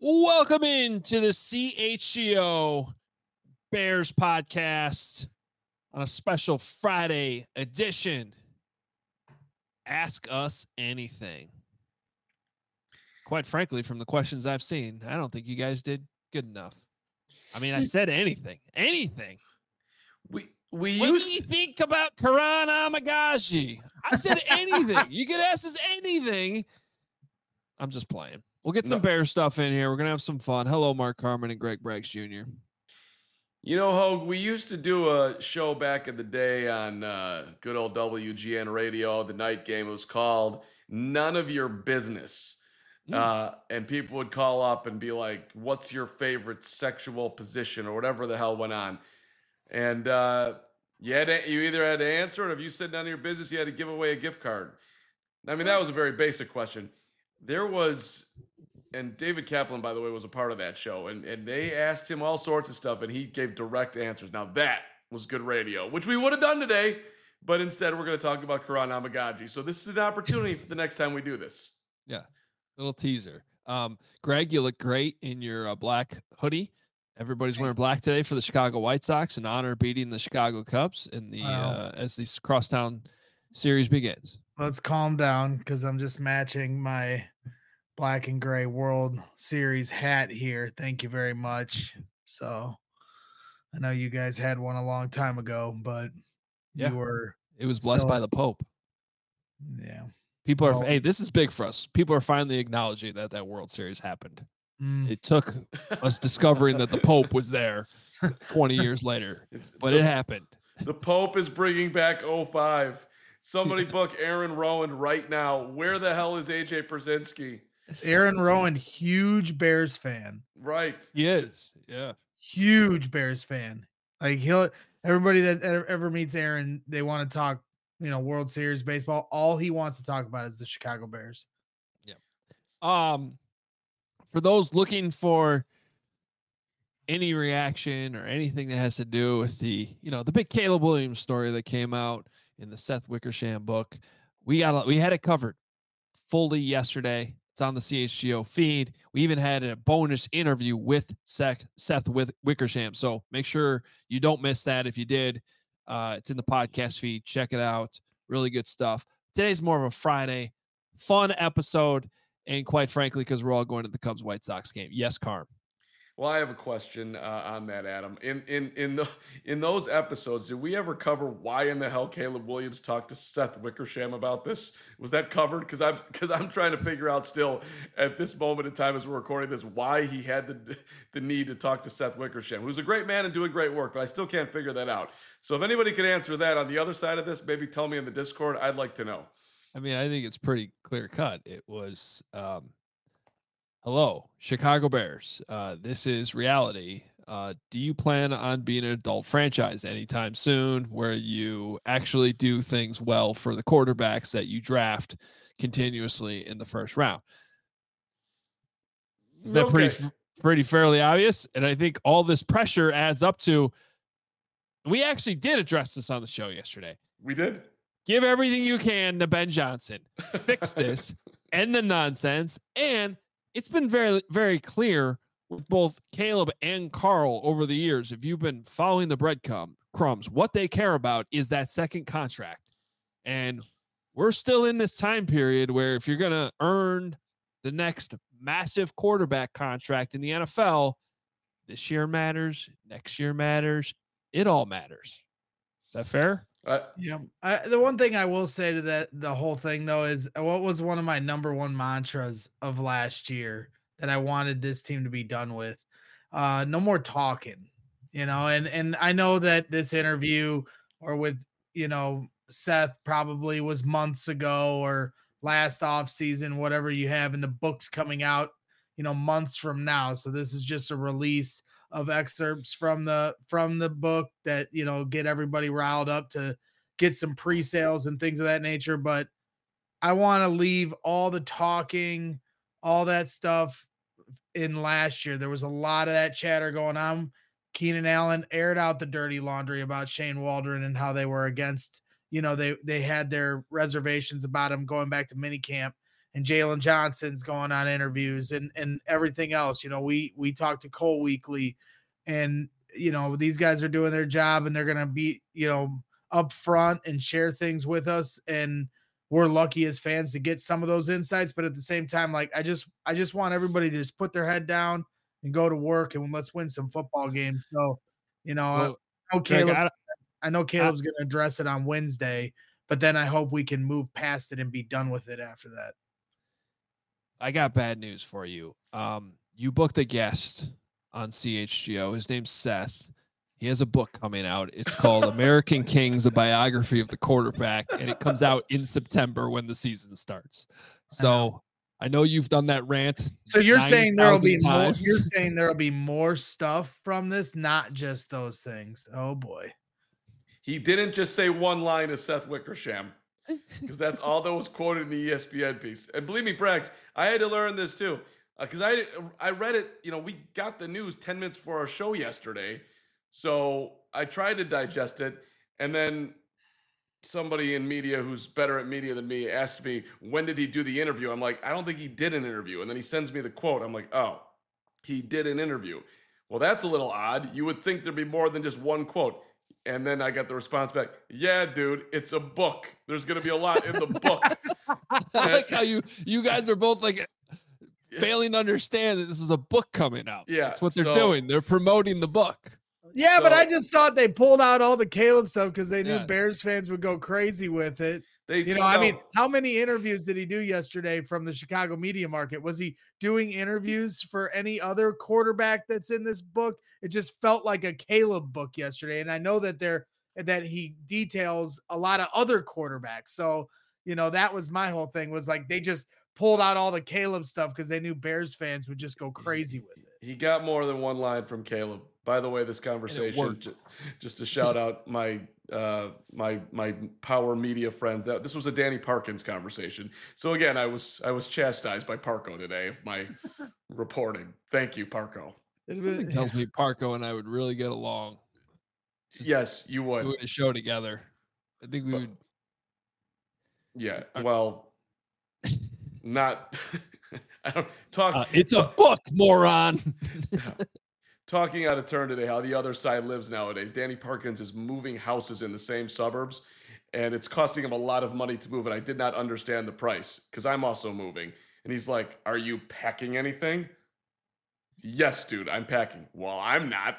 Welcome into the CHGO Bears podcast on a special Friday edition. Ask us anything. Quite frankly, from the questions I've seen, I don't think you guys did good enough. I mean, I said anything. We What used do you think about Karan Amagashi? I said anything. You could ask us anything. I'm just playing. We'll get some Bear stuff in here. We're going to have some fun. Hello, Mark Carman and Greg Braggs Jr. You know, Hogue, we used to do a show back in the day on good old WGN radio, the night game. It was called None of Your Business. And people would call up and be like, what's your sexual position or whatever the hell went on. And you either had to answer it, or if you said none of your business, you had to give away a gift card. I mean, that was a very basic question. And David Kaplan, by the way, was a part of that show. And they asked him all sorts of stuff, and he gave direct answers. Now, that was good radio, which we would have done today. But instead, we're going to talk about Karan Amagaji. So this is an opportunity for the next time we do this. Yeah, little teaser. Greg, you look great in your black hoodie. Everybody's wearing black today for the Chicago White Sox in honor of beating the Chicago Cubs in the as the crosstown series begins. Let's calm down because I'm just matching my black and gray World Series hat here. Thank you very much. So I know you guys had one a long time ago, but it was blessed by the Pope. Yeah. People are, hey, this is big for us. People are finally acknowledging that World Series happened. It took us discovering that the Pope was there 20 years later, but it happened. The Pope is bringing back 05. Somebody book Aaron Rowan right now. Where the hell is AJ Pierzynski? Aaron Rowan, huge Bears fan. Right. He is. Yeah. Huge Bears fan. Like everybody that ever meets Aaron, they want to talk, World Series baseball. All he wants to talk about is the Chicago Bears. Yeah. For those looking for any reaction or anything that has to do with the big Caleb Williams story that came out in the Seth Wickersham book, we had it covered fully yesterday. It's on the CHGO feed. We even had a bonus interview with Seth Wickersham. So make sure you don't miss that. If you did, it's in the podcast feed. Check it out. Really good stuff. Today's more of a Friday fun episode. And quite frankly, because we're all going to the Cubs White Sox game. Yes, Carm. Well, I have a question on that, Adam. In those episodes, did we ever cover why in the hell Caleb Williams talked to Seth Wickersham about this? Was that covered? Because I'm trying to figure out still at this moment in time as we're recording this why he had the need to talk to Seth Wickersham, who's a great man and doing great work, but I still can't figure that out. So if anybody can answer that on the other side of this, maybe tell me in the Discord. I'd like to know. I mean, I think it's pretty clear cut. It was, hello, Chicago Bears. This is reality. Do you plan on being an adult franchise anytime soon where you actually do things well for the quarterbacks that you draft continuously in the first round? Is that pretty fairly obvious? And I think all this pressure adds up to, we actually did address this on the show yesterday. We did. Give everything you can to Ben Johnson. Fix this. End the nonsense. And it's been very, very clear with both Caleb and Carl over the years. If you've been following the breadcrumbs, what they care about is that second contract. And we're still in this time period where if you're going to earn the next massive quarterback contract in the NFL, this year matters. Next year matters. It all matters. Is that fair? Yeah. The one thing I will say to the whole thing though, is what was one of my number one mantras of last year that I wanted this team to be done with. No more talking, and I know that this interview or with, Seth probably was months ago or last off season, whatever you have, in the books coming out, months from now. So this is just a release of excerpts from the book that, get everybody riled up to get some pre-sales and things of that nature. But I want to leave all the talking, all that stuff in last year. There was a lot of that chatter going on. Keenan Allen aired out the dirty laundry about Shane Waldron and how they were against, they had their reservations about him going back to minicamp. and Jalen Johnson's going on interviews and everything else. We talk to Cole weekly, and these guys are doing their job, and they're gonna be up front and share things with us, and we're lucky as fans to get some of those insights. But at the same time, like I just want everybody to just put their head down and go to work, and let's win some football games. So, Well, I know Greg, I know Caleb's going to address it on Wednesday, but then I hope we can move past it and be done with it after that. I got bad news for you. You booked a guest on CHGO. His name's Seth. He has a book coming out. It's called American Kings, a biography of the quarterback, and it comes out in September when the season starts. So I know you've done that rant. So you're saying there'll be more, times. you're saying there'll be more stuff from this, not just those things. Oh boy. He didn't just say one line as Seth Wickersham, because that's all that was quoted in the ESPN piece. And believe me, Brax, I had to learn this too, because I read it. We got the news 10 minutes before our show yesterday, so I tried to digest it, and then somebody in media who's better at media than me asked me, when did he do the interview? I'm like, I don't think he did an interview. And then he sends me the quote. I'm like, oh, he did an interview. Well, that's a little odd. You would think there'd be more than just one quote. And then I got the response back, yeah, dude, it's a book. There's going to be a lot in the book. I like how you guys are both like failing to understand that this is a book coming out. Yeah, that's what they're doing. They're promoting the book. Yeah, but I just thought they pulled out all the Caleb stuff because they knew Yeah. Bears fans would go crazy with it. How many interviews did he do yesterday from the Chicago media market? Was he doing interviews for any other quarterback that's in this book? It just felt like a Caleb book yesterday. And I know that he details a lot of other quarterbacks. So, that was my whole thing, was like they just pulled out all the Caleb stuff because they knew Bears fans would just go crazy with it. He got more than one line from Caleb. By the way, this conversation, just to shout out my power media friends, that this was a Danny Parkins conversation. So again, I was chastised by Parco today of my reporting. Thank you, Parco. Something tells me Parco and I would really get along. Yes, you would. Doing a show together. I think we would. Yeah. Well, not. I don't talk. It's a book, moron. Talking out of turn today, how the other side lives nowadays. Danny Parkins is moving houses in the same suburbs, and it's costing him a lot of money to move. And I did not understand the price because I'm also moving. And he's like, "Are you packing anything?" Yes, dude, I'm packing. Well, I'm not.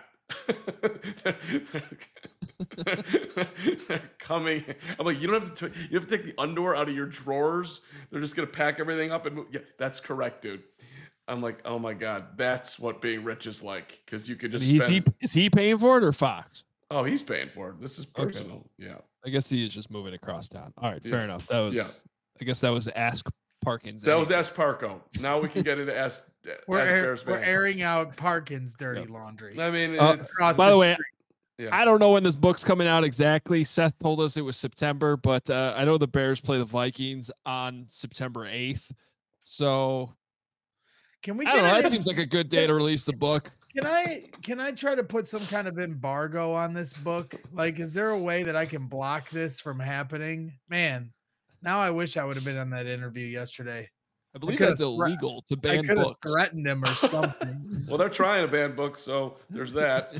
Coming. I'm like, you don't have to. You have to take the underwear out of your drawers. They're just gonna pack everything up and move. Yeah, that's correct, dude. I'm like, oh my god, that's what being rich is like, because you could just. Is he paying for it or Fox? Oh, he's paying for it. This is personal. Okay. Yeah. I guess he is just moving across town. All right, fair enough. That was. Yeah. I guess that was Ask Parkins. That was Ask Parco. Now we can get into Ask. We're airing out Parkins' dirty laundry. I mean, by the way. Yeah. I don't know when this book's coming out exactly. Seth told us it was September, but I know the Bears play the Vikings on September 8th. So can we? I don't know. That seems like a good day to release the book. Can I try to put some kind of embargo on this book? Like, is there a way that I can block this from happening? Man, now I wish I would have been on that interview yesterday. I believe that's illegal to ban books. I threatened him or something. Well, they're trying to ban books, so there's that.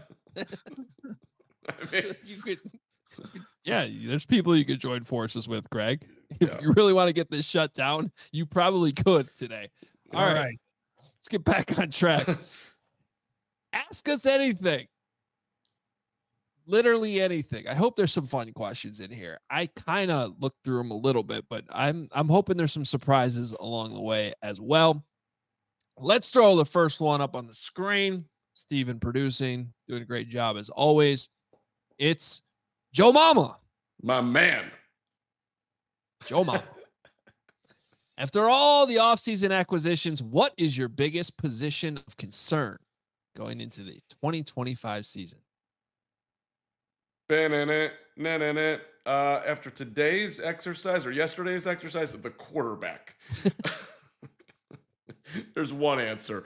So you could, there's people you could join forces with, Greg. If you really want to get this shut down, you probably could today. All right. Let's get back on track. Ask us anything. Literally anything. I hope there's some fun questions in here. I kind of looked through them a little bit, but I'm hoping there's some surprises along the way as well. Let's throw the first one up on the screen. Steven producing, doing a great job as always. It's Joe Mama. My man. Joe Mama. After all the offseason acquisitions, what is your biggest position of concern going into the 2025 season? After today's exercise or yesterday's exercise, the quarterback. There's one answer.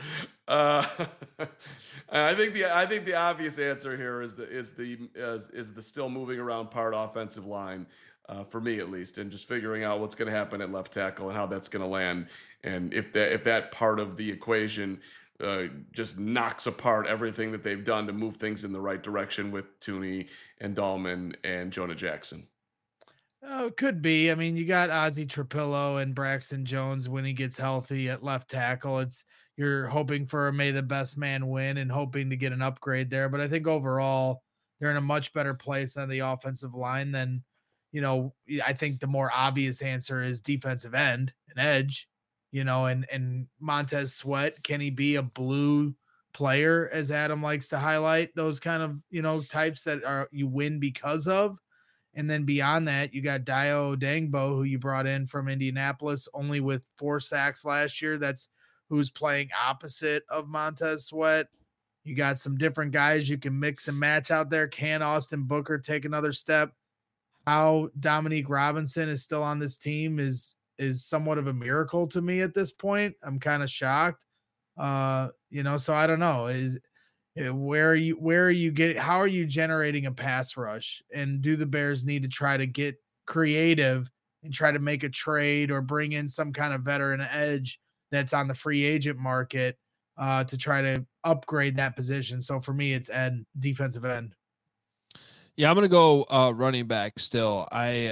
I think the obvious answer here is the still moving around part offensive line. for me at least, and just figuring out what's going to happen at left tackle and how that's going to land, and if that part of the equation just knocks apart everything that they've done to move things in the right direction with Tooney and Dahlman and Jonah Jackson. Oh, it could be. I mean, you got Ozzy Trapillo and Braxton Jones when he gets healthy at left tackle. You're hoping for a may the best man win and hoping to get an upgrade there. But I think overall they're in a much better place on the offensive line than, I think the more obvious answer is defensive end and edge, and Montez Sweat. Can he be a blue player, as Adam likes to highlight, those kind of, types that are you win because of? And then beyond that, you got Dio Dangbo, who you brought in from Indianapolis, only with 4 sacks last year. That's who's playing opposite of Montez Sweat. You got some different guys you can mix and match out there. Can Austin Booker take another step? How Dominique Robinson is still on this team is somewhat of a miracle to me at this point. I'm kind of shocked. So I don't know. Where are you getting, how are you generating a pass rush? And do the Bears need to try to get creative and try to make a trade or bring in some kind of veteran edge that's on the free agent market to try to upgrade that position? So for me, it's defensive end. Yeah, I'm going to go running back still. I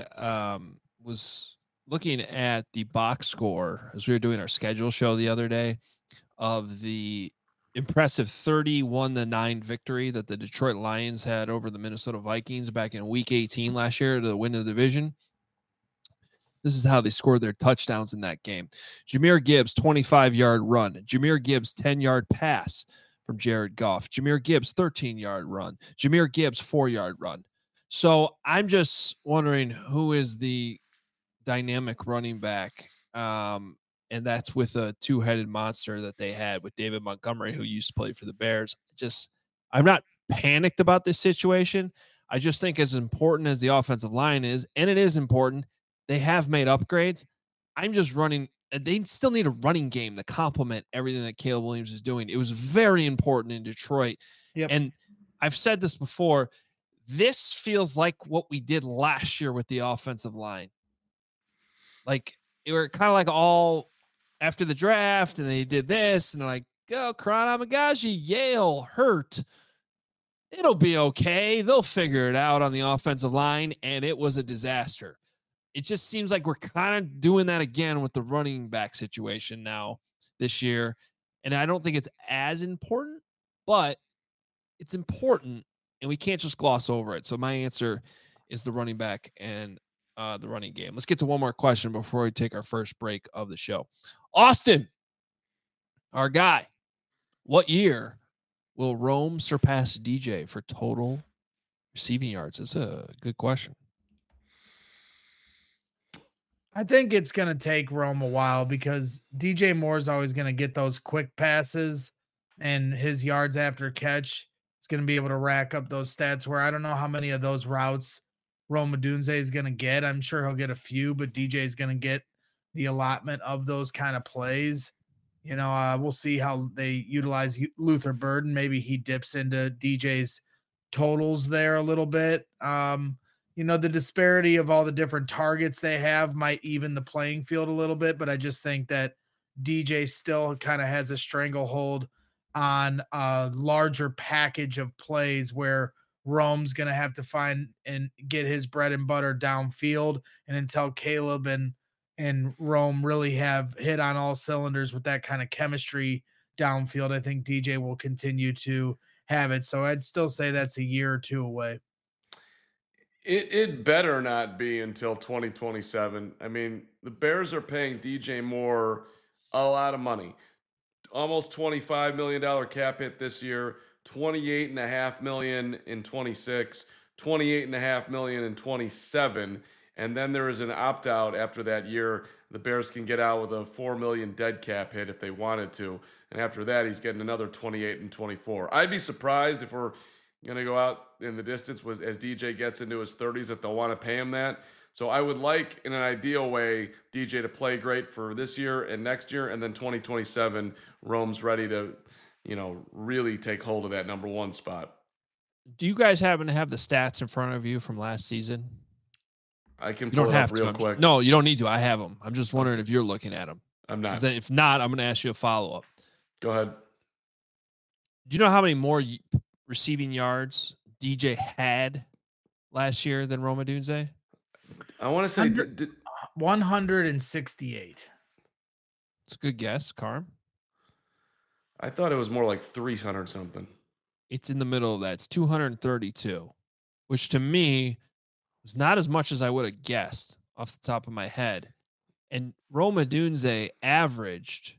was looking at the box score as we were doing our schedule show the other day of the impressive 31-9 victory that the Detroit Lions had over the Minnesota Vikings back in week 18 last year to win the division. This is how they scored their touchdowns in that game. Jahmyr Gibbs, 25-yard run. Jahmyr Gibbs, 10-yard pass from Jared Goff. Jahmyr Gibbs, 13-yard run. Jahmyr Gibbs, 4-yard run. So I'm just wondering who is the dynamic running back, and that's with a two-headed monster that they had with David Montgomery, who used to play for the Bears. I'm not panicked about this situation. I just think as important as the offensive line is, and it is important, they have made upgrades. I'm just running. They still need a running game to complement everything that Caleb Williams is doing. It was very important in Detroit. Yep. And I've said this before. This feels like what we did last year with the offensive line. Like, it were kind of like all after the draft, and they did this, and they're like, go, Karan Amagaji, Yale, hurt. It'll be okay. They'll figure it out on the offensive line, and it was a disaster. It just seems like we're kind of doing that again with the running back situation now this year, and I don't think it's as important, but it's important, and we can't just gloss over it. So my answer is the running back and the running game. Let's get to one more question before we take our first break of the show. Austin, our guy, what year will Rome surpass DJ for total receiving yards? That's a good question. I think it's going to take Rome a while because DJ Moore is always going to get those quick passes, and his yards after catch is going to be able to rack up those stats where I don't know how many of those routes Rome Odunze is going to get. I'm sure he'll get a few, but DJ is going to get the allotment of those kind of plays. We'll see how they utilize Luther Burden. Maybe he dips into DJ's totals there a little bit. The disparity of all the different targets they have might even the playing field a little bit, but I just think that DJ still kind of has a stranglehold on a larger package of plays where Rome's going to have to find and get his bread and butter downfield. And until Caleb and Rome really have hit on all cylinders with that kind of chemistry downfield, I think DJ will continue to have it. So I'd still say that's a year or two away. It better not be until 2027. I mean, the Bears are paying DJ Moore a lot of money. Almost $25 million cap hit this year, $28.5 million in 26, $28.5 million in 27. And then there is an opt-out after that year. The Bears can get out with a $4 million dead cap hit if they wanted to. And after that, he's getting another 28 and 24. I'd be surprised if we're going to go out in the distance as DJ gets into his 30s that they'll want to pay him that. So I would like, in an ideal way, DJ to play great for this year and next year, and then 2027, Rome's ready to, really take hold of that number one spot. Do you guys happen to have the stats in front of you from last season? I can You don't pull it have up real to. quick. No, you don't need to. I have them. I'm just wondering if you're looking at them. I'm not. If not, I'm going to ask you a follow-up. Go ahead. Do you know how many more receiving yards DJ had last year than Rome Odunze? I want to say 168. It's a good guess, Carm. I thought it was more like 300 something. It's in the middle of that. It's 232, which to me was not as much as I would have guessed off the top of my head. And Rome Odunze averaged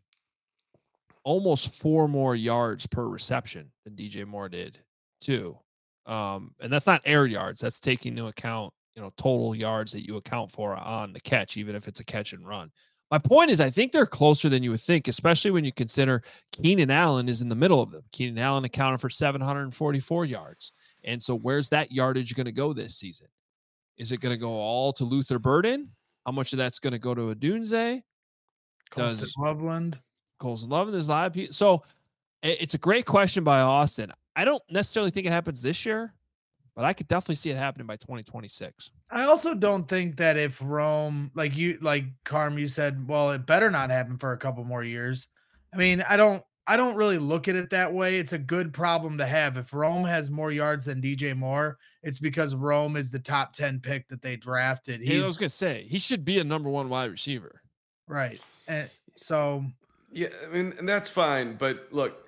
almost 4 more yards per reception than DJ Moore did, too. And that's not air yards. That's taking into account, total yards that you account for on the catch, even if it's a catch and run. My point is, I think they're closer than you would think, especially when you consider Keenan Allen is in the middle of them. Keenan Allen accounted for 744 yards. And so where's that yardage going to go this season? Is it going to go all to Luther Burden? How much of that's going to go to Odunze? Colston Loveland. Colston Loveland is live. So it's a great question by Austin. I don't necessarily think it happens this year, but I could definitely see it happening by 2026. I also don't think that if Rome, like Carm, you said, well, it better not happen for a couple more years. I mean, I don't really look at it that way. It's a good problem to have. If Rome has more yards than DJ Moore, it's because Rome is the top 10 pick that they drafted. I was going to say, he should be a number 1 wide receiver. Right. And so. Yeah, I mean, and that's fine. But look,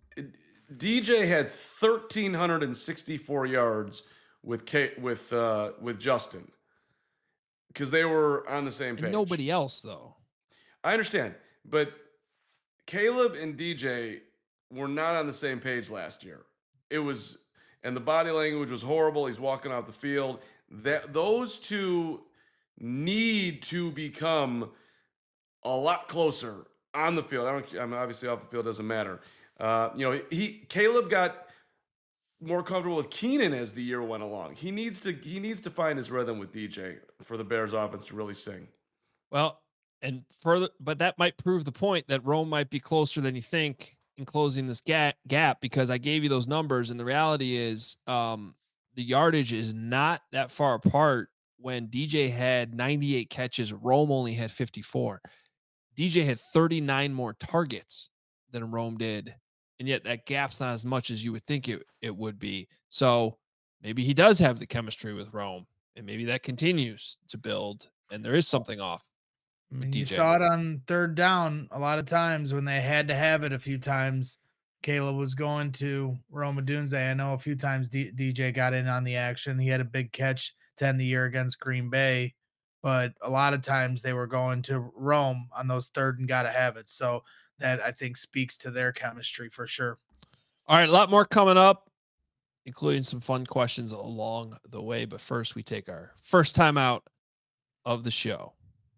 DJ had 1,364 yards with Justin because they were on the same page. And nobody else, though. I understand, but Caleb and DJ were not on the same page last year. And the body language was horrible. He's walking off the field. Those two need to become a lot closer on the field. I'm obviously off the field, doesn't matter. Caleb got more comfortable with Keenan as the year went along. He needs to find his rhythm with DJ for the Bears offense to really sing. Well, and further, but that might prove the point that Rome might be closer than you think in closing this gap, because I gave you those numbers, and the reality is the yardage is not that far apart. When DJ had 98 catches, Rome only had 54. DJ had 39 more targets than Rome did, and yet that gap's not as much as you would think it would be. So maybe he does have the chemistry with Rome, and maybe that continues to build, and there is something off. I mean, you saw it on third down a lot of times when they had to have it a few times. Caleb was going to Rome Odunze. I know a few times DJ got in on the action. He had a big catch to end the year against Green Bay, but a lot of times they were going to Rome on those third and got to have it. So that, I think, speaks to their chemistry for sure. All right, a lot more coming up, including some fun questions along the way. But first, we take our first time out of the show.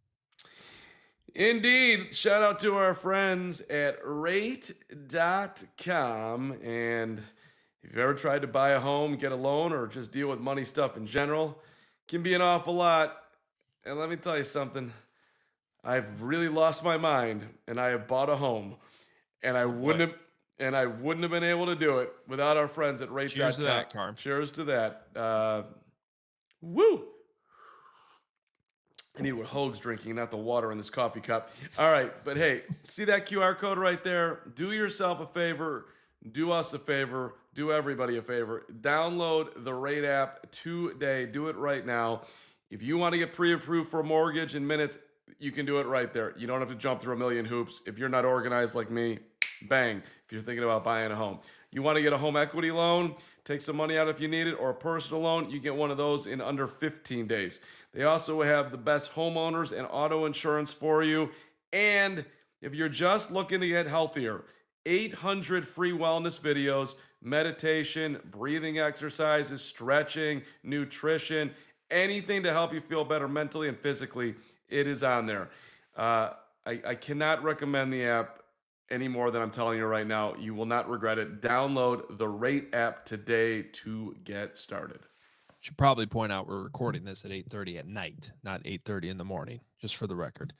Indeed. Shout out to our friends at rate.com. And if you've ever tried to buy a home, get a loan, or just deal with money stuff in general, it can be an awful lot. And let me tell you something. I've really lost my mind, and I have bought a home, and I wouldn't have been able to do it without our friends at rate.com. Cheers to that, Carm. Cheers to that. Woo! I need what Hoag's drinking, not the water in this coffee cup. All right, but hey, see that QR code right there? Do yourself a favor. Do us a favor. Do everybody a favor. Download the Rate app today. Do it right now. If you want to get pre-approved for a mortgage in minutes, you can do it right there. You don't have to jump through a million hoops. If you're not organized like me, bang, if you're thinking about buying a home. You want to get a home equity loan, take some money out if you need it, or a personal loan, you get one of those in under 15 days. They also have the best homeowners and auto insurance for you. And if you're just looking to get healthier, 800 free wellness videos, meditation, breathing exercises, stretching, nutrition, anything to help you feel better mentally and physically, it is on there. I cannot recommend the app any more than I'm telling you right now. You will not regret it. Download the Rate app today to get started. Should probably point out we're recording this at 8:30 at night, not 8:30 in the morning, just for the record.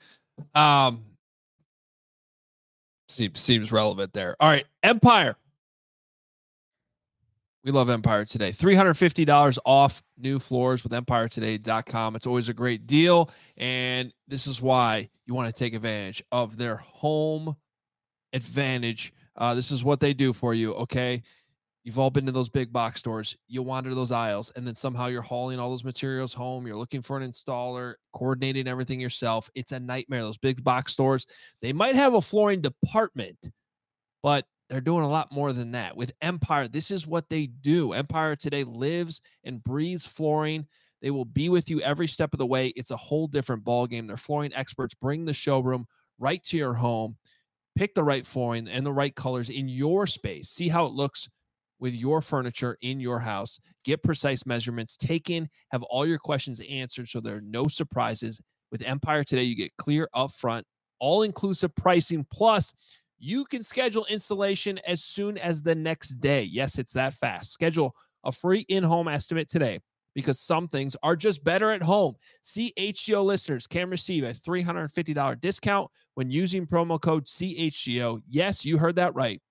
Seems relevant there. All right, Empire. We love Empire Today. $350 off new floors with EmpireToday.com. It's always a great deal. And this is why you want to take advantage of their home advantage. This is what they do for you. Okay. You've all been to those big box stores. You wander those aisles, and then somehow you're hauling all those materials home. You're looking for an installer, coordinating everything yourself. It's a nightmare. Those big box stores, they might have a flooring department, but they're doing a lot more than that. With Empire, this is what they do. Empire Today lives and breathes flooring. They will be with you every step of the way. It's a whole different ballgame. Their flooring experts bring the showroom right to your home. Pick the right flooring and the right colors in your space. See how it looks with your furniture in your house. Get precise measurements taken, have all your questions answered so there are no surprises. With Empire Today, you get clear upfront, all-inclusive pricing, plus you can schedule installation as soon as the next day. Yes, it's that fast. Schedule a free in-home estimate today because some things are just better at home. CHGO listeners can receive a $350 discount when using promo code CHGO. Yes, you heard that right.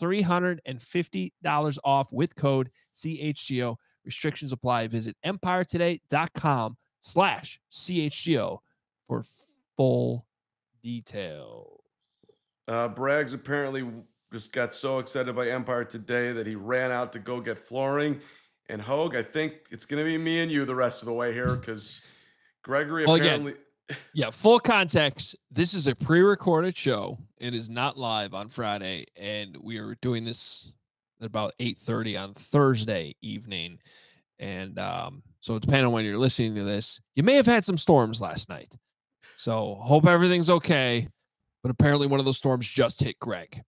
$350 off with code CHGO. Restrictions apply. Visit EmpireToday.com/CHGO for full details. Braggs apparently just got so excited by Empire Today that he ran out to go get flooring. And Hogue, I think it's going to be me and you the rest of the way here because Gregory apparently. Yeah, full context. This is a pre-recorded show. It is not live on Friday, and we are doing this at about 8:30 on Thursday evening. And so depending on when you're listening to this, you may have had some storms last night. So hope everything's okay. But apparently one of those storms just hit Greg.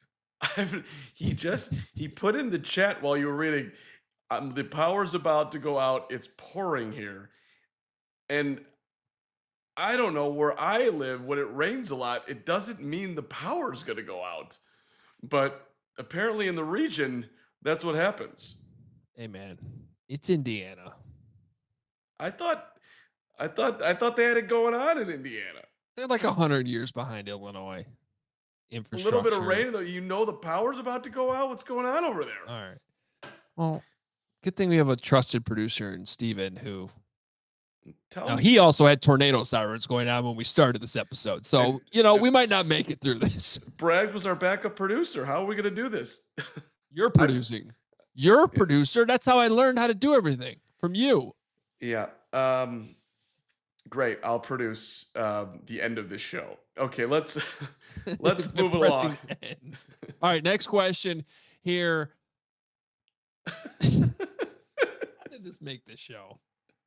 He put in the chat while you were reading, the power's about to go out. It's pouring here. And I don't know where I live. When it rains a lot, it doesn't mean the power's going to go out. But apparently in the region, that's what happens. Hey man, it's Indiana. I thought they had it going on in Indiana. They're like 100 years behind Illinois. Infrastructure. A little bit of rain, though. You know the power's about to go out. What's going on over there? All right. Well, good thing we have a trusted producer in Steven who. Now, he also had tornado sirens going on when we started this episode. So, we might not make it through this. Bragg was our backup producer. How are we going to do this? You're producing. You're a producer. That's how I learned how to do everything from you. Yeah. Great. I'll produce the end of this show. Okay, let's move along. All right, next question here. How did this make this show?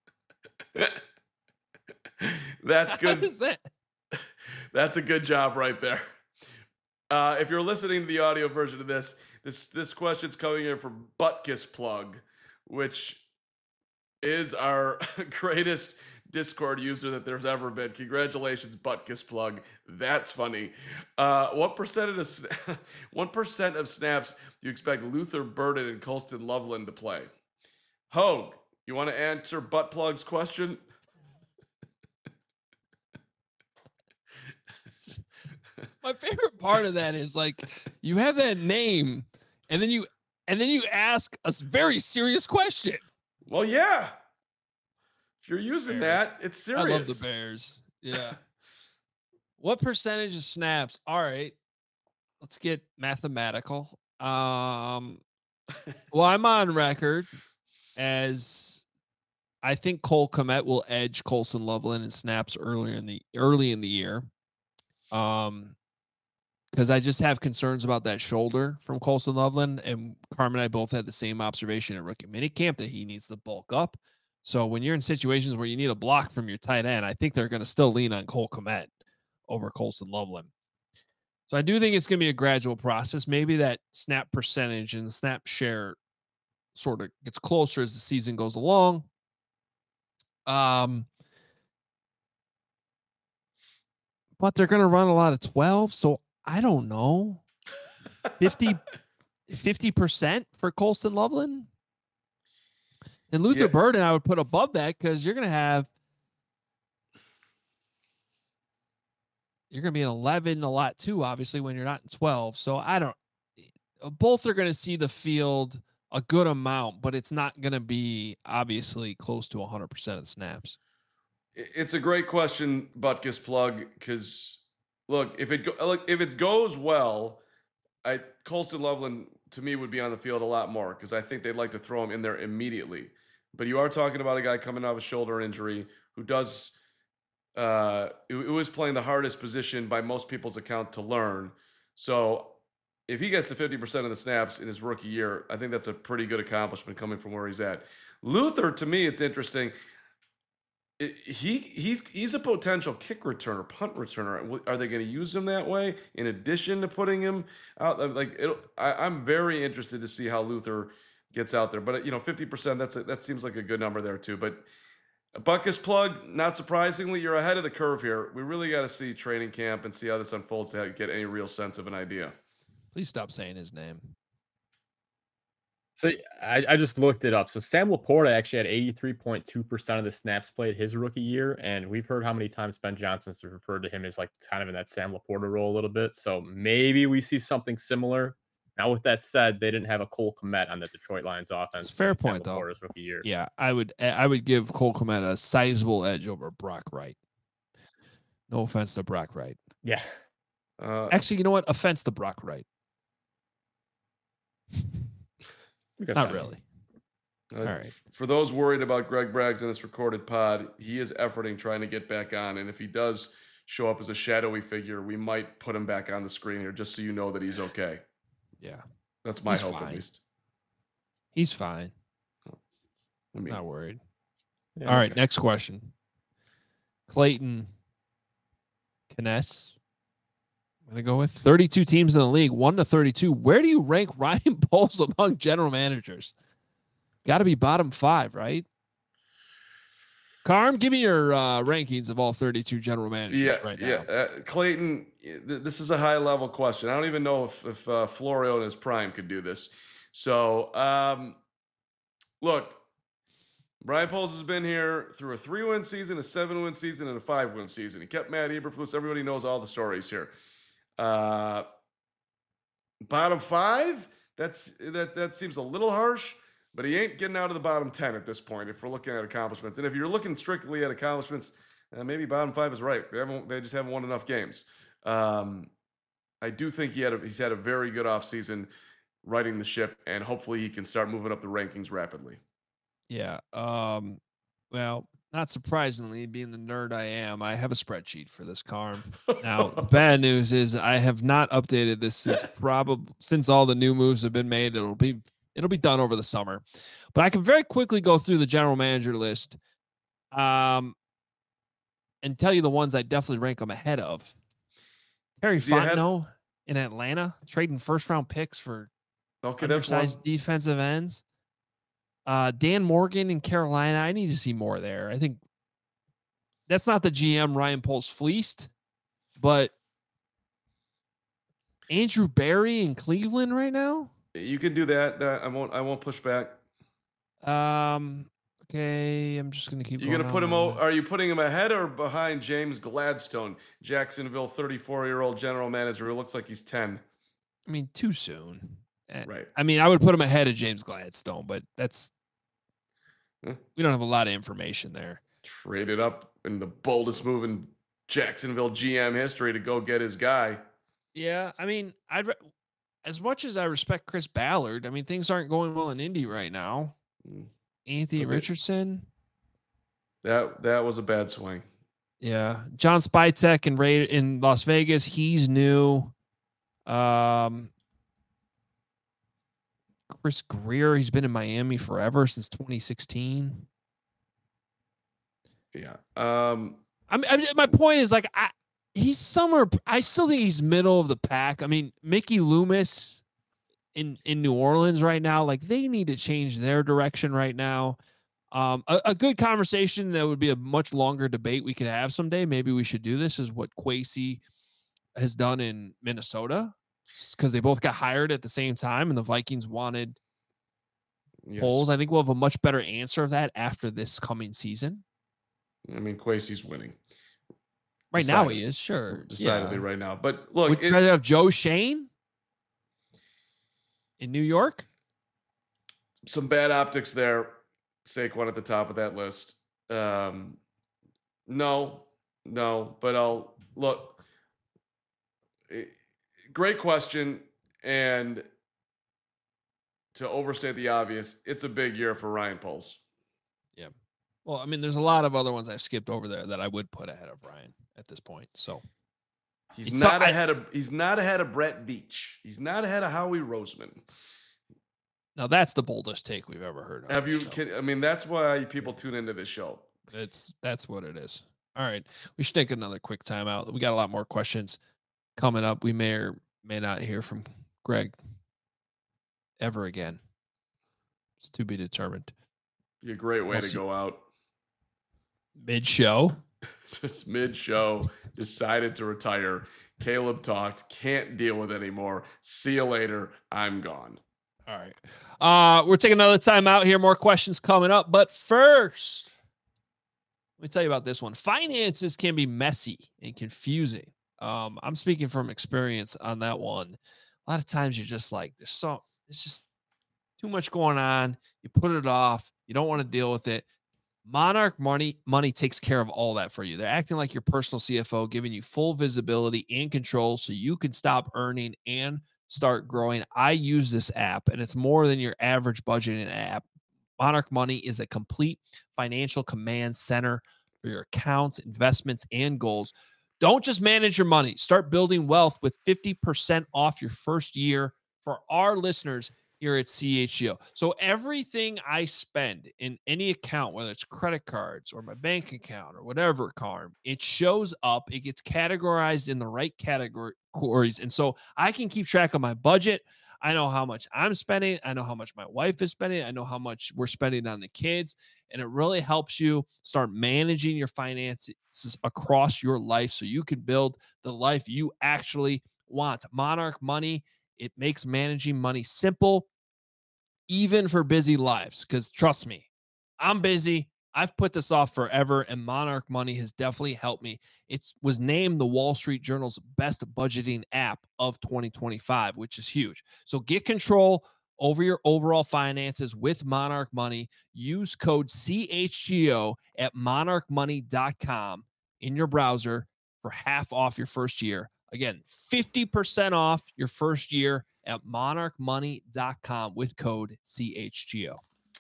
That's good. What is that? That's a good job right there. If you're listening to the audio version of this question's coming in from Buttkiss Plug, which is our greatest Discord user that there's ever been. Congratulations, Buttkiss Plug. That's funny. What percent of snaps do you expect Luther Burden and Colston Loveland to play? Hogue, you want to answer Butt Plug's question? My favorite part of that is like you have that name and then you ask a very serious question. Well, yeah. If you're using that, it's serious. I love the Bears. Yeah. What percentage of snaps? All right. Let's get mathematical. Well, I'm on record as I think Cole Kmet will edge Colson Loveland in snaps early in the year. Because I just have concerns about that shoulder from Colson Loveland, and Carmen and I both had the same observation at rookie minicamp that he needs to bulk up. So when you're in situations where you need a block from your tight end, I think they're going to still lean on Cole Kmet over Colson Loveland. So I do think it's going to be a gradual process. Maybe that snap percentage and the snap share sort of gets closer as the season goes along. But they're going to run a lot of 12. So I don't know. 50% for Colston Loveland. And Luther Burden, I would put above that because you're going to be in 11 a lot too, obviously, when you're not in 12. So both are going to see the field a good amount, but it's not going to be obviously close to 100% of the snaps. It's a great question, Butkus Plug, because look, if it goes well, Colston Loveland to me would be on the field a lot more because I think they'd like to throw him in there immediately. But you are talking about a guy coming off a shoulder injury who does who is playing the hardest position by most people's account to learn. So if he gets to 50% of the snaps in his rookie year, I think that's a pretty good accomplishment coming from where he's at. Luther, to me, it's interesting. He's a potential kick returner, punt returner. Are they going to use him that way in addition to putting him out? I'm very interested to see how Luther gets out there. But 50%, that seems like a good number there too. But Butkus Plug, not surprisingly, you're ahead of the curve here. We really got to see training camp and see how this unfolds to get any real sense of an idea. Please stop saying his name. So I just looked it up. So Sam Laporta actually had 83.2% of the snaps played his rookie year. And we've heard how many times Ben Johnson's referred to him as like kind of in that Sam Laporta role a little bit. So maybe we see something similar. Now, with that said, they didn't have a Cole Kmet on the Detroit Lions offense. Fair point, though. Rookie year. Yeah, I would give Cole Kmet a sizable edge over Brock Wright. No offense to Brock Wright. Yeah. Actually, you know what? Offense to Brock Wright. Not really. All right. For those worried about Greg Braggs in this recorded pod, he is efforting trying to get back on. And if he does show up as a shadowy figure, we might put him back on the screen here just so you know that he's okay. Yeah. That's my hope, at least. He's fine. I'm not worried. Yeah, all right. Next question. Clayton Kness. I'm going to go with 32 teams in the league, 1 to 32. Where do you rank Ryan Poles among general managers? Got to be bottom 5, right? Carm, give me your rankings of all 32 general managers right now. Yeah, Clayton, this is a high-level question. I don't even know if Florio in his prime could do this. So, look, Brian Poles has been here through a 3-win season, a 7-win season, and a 5-win season. He kept Matt Eberflus. Everybody knows all the stories here. Bottom 5, that seems a little harsh, but he ain't getting out of the bottom 10 at this point if we're looking at accomplishments. And if you're looking strictly at accomplishments, maybe bottom 5 is right. They just haven't won enough games. I do think he's had a very good offseason righting the ship, and hopefully he can start moving up the rankings rapidly. Yeah. Well, not surprisingly, being the nerd I am, I have a spreadsheet for this, Carm. Now, the bad news is I have not updated this since all the new moves have been made. It'll be done over the summer. But I can very quickly go through the general manager list and tell you the ones I definitely rank them ahead of. Terry Fontenot in Atlanta, trading first-round picks for undersized defensive ends. Dan Morgan in Carolina, I need to see more there. I think that's not the GM Ryan Poles fleeced, but Andrew Berry in Cleveland right now. You can do that. I won't push back. Okay, I'm just gonna keep. You're gonna put him. Are you putting him ahead or behind James Gladstone, Jacksonville 34-year-old general manager who looks like he's 10? I mean, too soon. Right. I mean, I would put him ahead of James Gladstone, but we don't have a lot of information there. Traded up in the boldest move in Jacksonville GM history to go get his guy. Yeah, I mean, as much as I respect Chris Ballard, I mean, things aren't going well in Indy right now. Anthony Richardson. That was a bad swing. Yeah. John Spytek in Las Vegas. He's new. Chris Greer, he's been in Miami forever since 2016. Yeah. My point is he's somewhere. I still think he's middle of the pack. I mean, Mickey Loomis in New Orleans right now, they need to change their direction right now. A good conversation that would be a much longer debate we could have someday. Maybe we should do this is what Kwesi has done in Minnesota, because they both got hired at the same time and the Vikings wanted Poles. I think we'll have a much better answer of that after this coming season. I mean, Kwesi's winning. Right now he is, sure. Decidedly right now. But look. Would you rather have Joe Shane in New York? some bad optics there. Saquon at the top of that list. No, but I'll look. Great question. And to overstate the obvious, it's a big year for Ryan Poles. Yeah. Well, I mean, there's a lot of other ones I've skipped over there that I would put ahead of Ryan at this point. So he's not ahead of Brett Veach. He's not ahead of Howie Roseman. Now that's the boldest take we've ever heard. Have you? I mean, that's why people tune into this show. That's what it is. All right, we should take another quick timeout. We got a lot more questions coming up. We may or may not hear from Greg ever again. It's to be determined. Be a great way to go out. Mid-show. Just mid-show, decided to retire. Caleb talked, can't deal with it anymore. See you later. I'm gone. All right. We're taking another time out here. More questions coming up. But first, let me tell you about this one. Finances can be messy and confusing. I'm speaking from experience on that one. A lot of times you're just like, it's just too much going on. You put it off. You don't want to deal with it. Monarch Money takes care of all that for you. They're acting like your personal CFO, giving you full visibility and control so you can stop earning and start growing. I use this app, and it's more than your average budgeting app. Monarch Money is a complete financial command center for your accounts, investments, and goals. Don't just manage your money. Start building wealth with 50% off your first year for our listeners here at CHGO. So everything I spend in any account, whether it's credit cards or my bank account or whatever, Carm, it shows up. It gets categorized in the right categories. And so I can keep track of my budget. I know how much I'm spending. I know how much my wife is spending. I know how much we're spending on the kids. And it really helps you start managing your finances across your life so you can build the life you actually want. Monarch Money, it makes managing money simple, even for busy lives. Because trust me, I'm busy. I've put this off forever, and Monarch Money has definitely helped me. It was named the Wall Street Journal's best budgeting app of 2025, which is huge. So get control over your overall finances with Monarch Money. Use code CHGO at monarchmoney.com in your browser for half off your first year. Again, 50% off your first year at monarchmoney.com with code CHGO.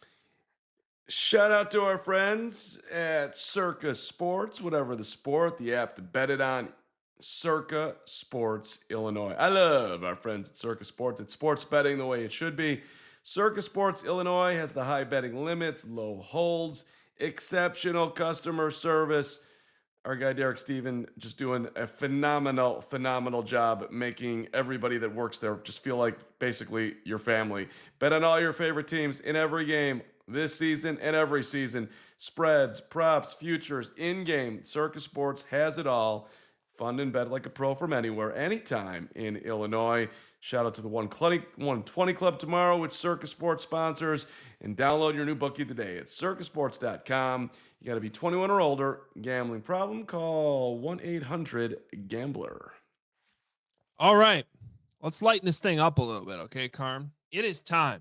Shout out to our friends at Circa Sports, whatever the sport, the app to bet it on, Circa Sports, Illinois. I love our friends at Circa Sports. It's sports betting the way it should be. Circa Sports, Illinois has the high betting limits, low holds, exceptional customer service. Our guy, Derek Steven, just doing a phenomenal job making everybody that works there just feel like basically your family. Bet on all your favorite teams in every game this season and every season. Spreads, props, futures, in-game. Circa Sports has it all. Fund and bet like a pro from anywhere, anytime in Illinois. Shout out to the 120 Club tomorrow, which Circa Sports sponsors. And download your new bookie today at circasports.com. You got to be 21 or older. Gambling problem? Call 1-800-GAMBLER. All right. Let's lighten this thing up a little bit, okay, Carm? It is time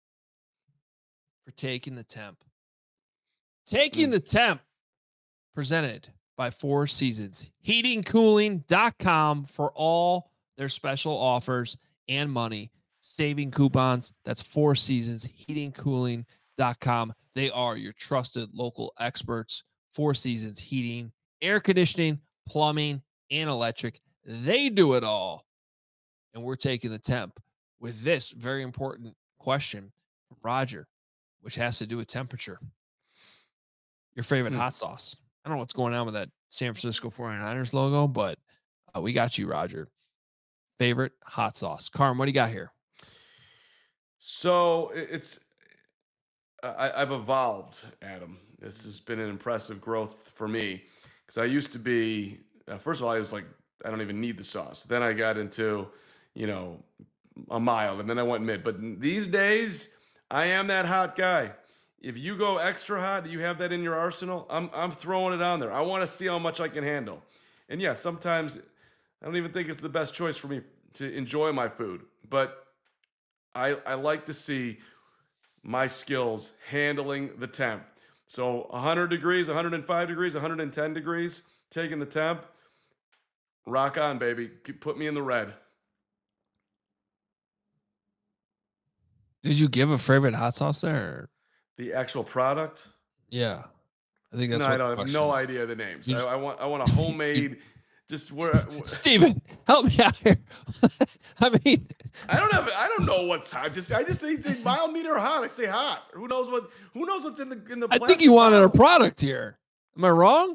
for Taking the Temp. Taking the Temp, presented by Four Seasons. Heatingcooling.com for all their special offers and money. Saving coupons. That's Four Seasons. Heatingcooling.com. They are your trusted local experts. Four Seasons Heating, air conditioning, plumbing, and electric. They do it all. And we're taking the temp with this very important question from Roger, which has to do with temperature. Your favorite hot sauce. I don't know what's going on with that San Francisco 49ers logo, but we got you, Roger. Favorite hot sauce. Carm, what do you got here? So I've evolved, Adam. This has been an impressive growth for me because I used to be, first of all, I was like, I don't even need the sauce. Then I got into, a mild, and then I went mid. But these days, I am that hot guy. If you go extra hot, you have that in your arsenal, I'm throwing it on there. I want to see how much I can handle. And yeah, sometimes I don't even think it's the best choice for me to enjoy my food. But I like to see my skills handling the temp. So 100 degrees, 105 degrees, 110 degrees, taking the temp. Rock on, baby. Put me in the red. Did you give a favorite hot sauce there? Or? The actual product? Yeah. I think that's No, what I don't have question no was. idea the names. You just- I want a homemade. Just where Steven, help me out here. I mean, I don't know what's hot. I just say mild, medium, or hot. I say hot. Who knows what's in the I think you plastic wanted a bottle? product here. Am I wrong?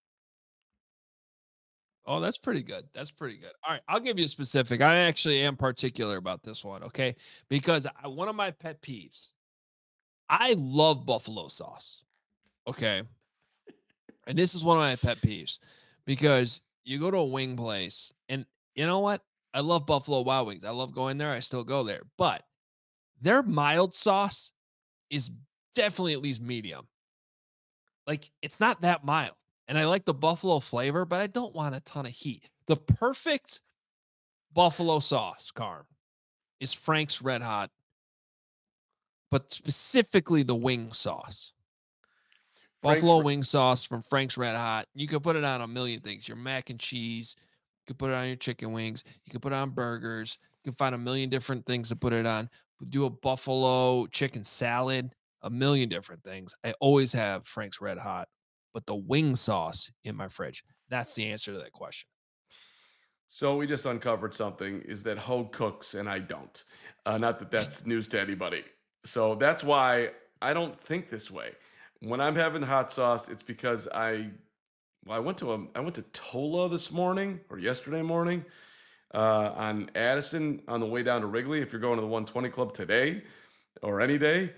Oh, that's pretty good. That's pretty good. All right, I'll give you a specific. I actually am particular about this one, okay? Because one of my pet peeves, I love buffalo sauce, okay? And this is one of my pet peeves because you go to a wing place, and you know what? I love Buffalo Wild Wings. I love going there. I still go there, but their mild sauce is definitely at least medium. Like, it's not that mild. And I like the buffalo flavor, but I don't want a ton of heat. The perfect buffalo sauce, Carm, is Frank's Red Hot, but specifically the wing sauce. Frank's Buffalo Re- wing sauce from Frank's Red Hot. You can put it on a million things. Your mac and cheese. You can put it on your chicken wings. You can put it on burgers. You can find a million different things to put it on. Do a buffalo chicken salad, a million different things. I always have Frank's Red Hot, but the wing sauce in my fridge. That's the answer to that question. So we just uncovered something, is that Hogue cooks and I don't. Not that that's news to anybody. So that's why I don't think this way. When I'm having hot sauce, it's because I went to Tola this morning or yesterday morning on Addison on the way down to Wrigley. If you're going to the 120 Club today or any day,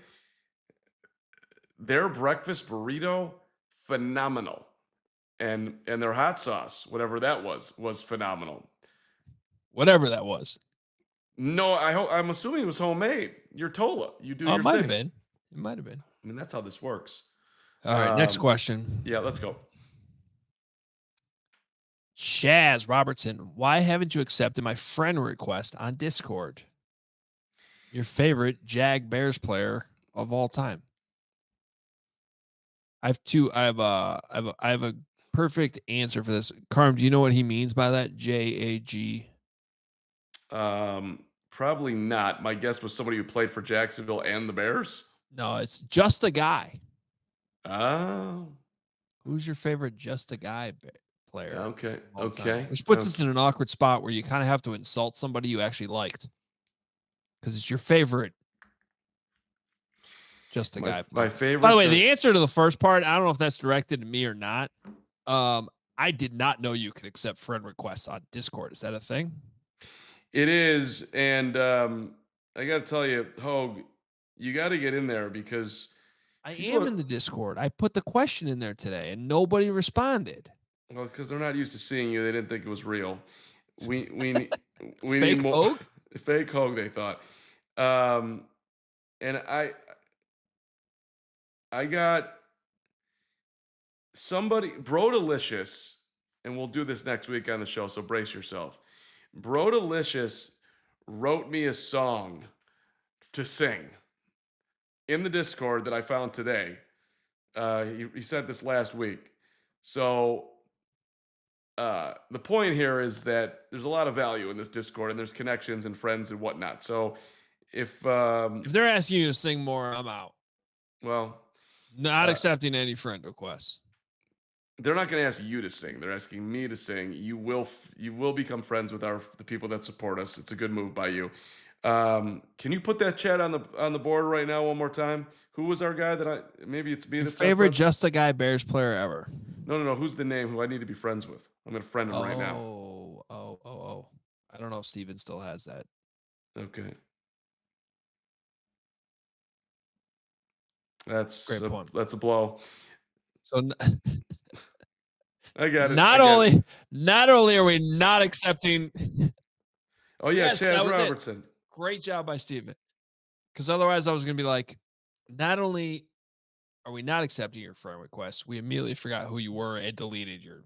their breakfast burrito, phenomenal. And their hot sauce, whatever that was phenomenal. Whatever that was. No, I'm assuming it was homemade. You're Tola. You do your It might thing. have been. It might have been. I mean, that's how this works. All right, next Um, question. Yeah, let's go. Shaz Robertson, why haven't you accepted my friend request on Discord? Your favorite Jag Bears player of all time. I have a perfect answer for this. Carm, do you know what he means by that? JAG. Probably not. My guess was somebody who played for Jacksonville and the Bears. No, it's just a guy. Oh, Who's your favorite just a guy player? okay, of all time? okay. Which puts us in an awkward spot where you kind of have to insult somebody you actually liked because it's your favorite just a guy player. My favorite. By the way, the answer to the first part, I don't know if that's directed to me or not. I did not know you could accept friend requests on Discord. Is that a thing? It is, and I got to tell you, Hogue, you got to get in there because I people am in the Discord. I put the question in there today and nobody responded. well, because they're not used to seeing you. They didn't think it was real. We need Fake more Hogue? fake Hogue. They thought, and I got somebody, Brodalicious, and we'll do this next week on the show. So brace yourself. Brodalicious wrote me a song to sing in the Discord that I found today. He sent this last week. So the point here is that there's a lot of value in this Discord, and there's connections and friends and whatnot. So if they're asking you to sing more, I'm out. Well, Not accepting any friend requests. they're not going to ask you to sing. They're asking me to sing. You will become friends with the people that support us. It's a good move by you. Can you put that chat on the board right now one more time? Who was our guy maybe it's me Your that's favorite just a guy Bears player ever? No. Who's the name who I need to be friends with? I'm going to friend him right now. Oh. I don't know if Steven still has that. Okay. That's Great point. That's a blow. So I got it. not only are we not accepting. Oh yeah, Yes, that Chaz was it. Robertson. Great job by Steven. Because otherwise I was going to be like, not only are we not accepting your friend request, we immediately forgot who you were and deleted your.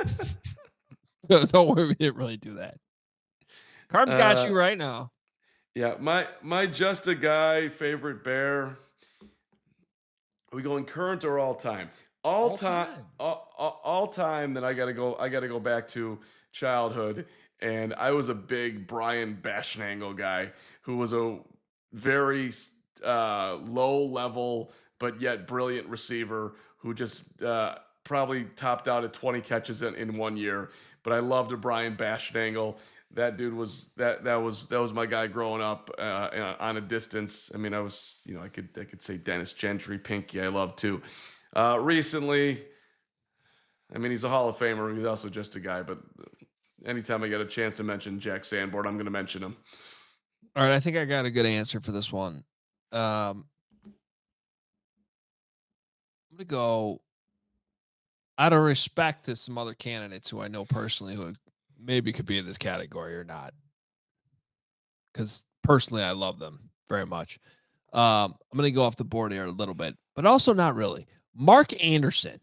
Don't worry, we didn't really do that. Carb's got you right now. Yeah, my just a guy favorite Bear. Are we going current or all time? All All time, time. all time. Then I gotta go. I gotta go back to childhood, and I was a big Brian Bashnangle guy who was a very low level but yet brilliant receiver who just probably topped out at 20 catches in 1 year. But I loved a Brian Bashnangle. That dude was that was my guy growing up on a distance. I mean, I was I could say Dennis Gentry, Pinky. I love too. Recently, I mean, he's a Hall of Famer. He's also just a guy. But anytime I get a chance to mention Jack Sanborn, I'm going to mention him. All right, I think I got a good answer for this one. I'm going to go out of respect to some other candidates who I know personally who maybe could be in this category or not. Because personally, I love them very much. I'm going to go off the board here a little bit, but also not really. Mark Anderson.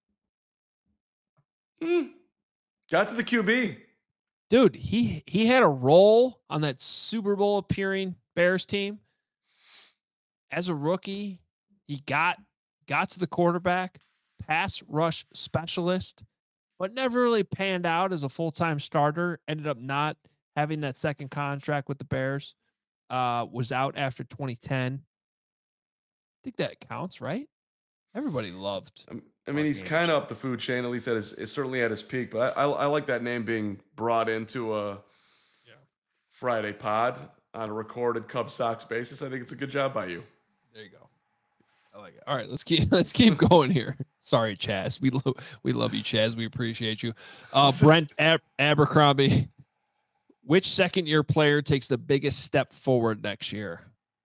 Got to the QB. Dude, he had a role on that Super Bowl appearing Bears team. As a rookie, he got to the quarterback, pass rush specialist, but never really panned out as a full-time starter. Ended up not having that second contract with the Bears. Was out after 2010. I think that counts, right? Everybody loved. I mean, he's kind of up the food chain, at least certainly at his peak. But I like that name being brought into a Friday pod on a recorded Cub Sox basis. I think it's a good job by you. There you go. I like it. All right, let's keep going here. Sorry, Chaz. We love you, Chaz. We appreciate you. Brent Abercrombie. Which second-year player takes the biggest step forward next year?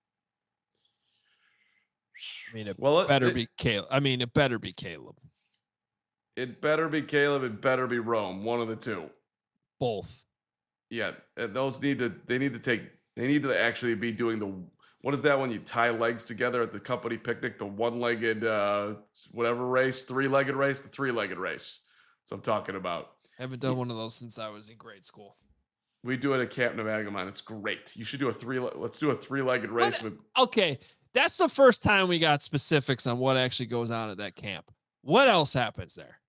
I mean, it better be Caleb. It better be Caleb. It better be Caleb. It better be Rome. One of the two. Both. Yeah, those need to actually be doing what is that when you tie legs together at the company picnic? The one-legged whatever race, three-legged race, the three-legged race. That's what I'm talking about. I haven't done one of those since I was in grade school. We do it at Camp Navagamon. It's great. You should do let's do a three-legged race Okay. That's the first time we got specifics on what actually goes on at that camp. What else happens there?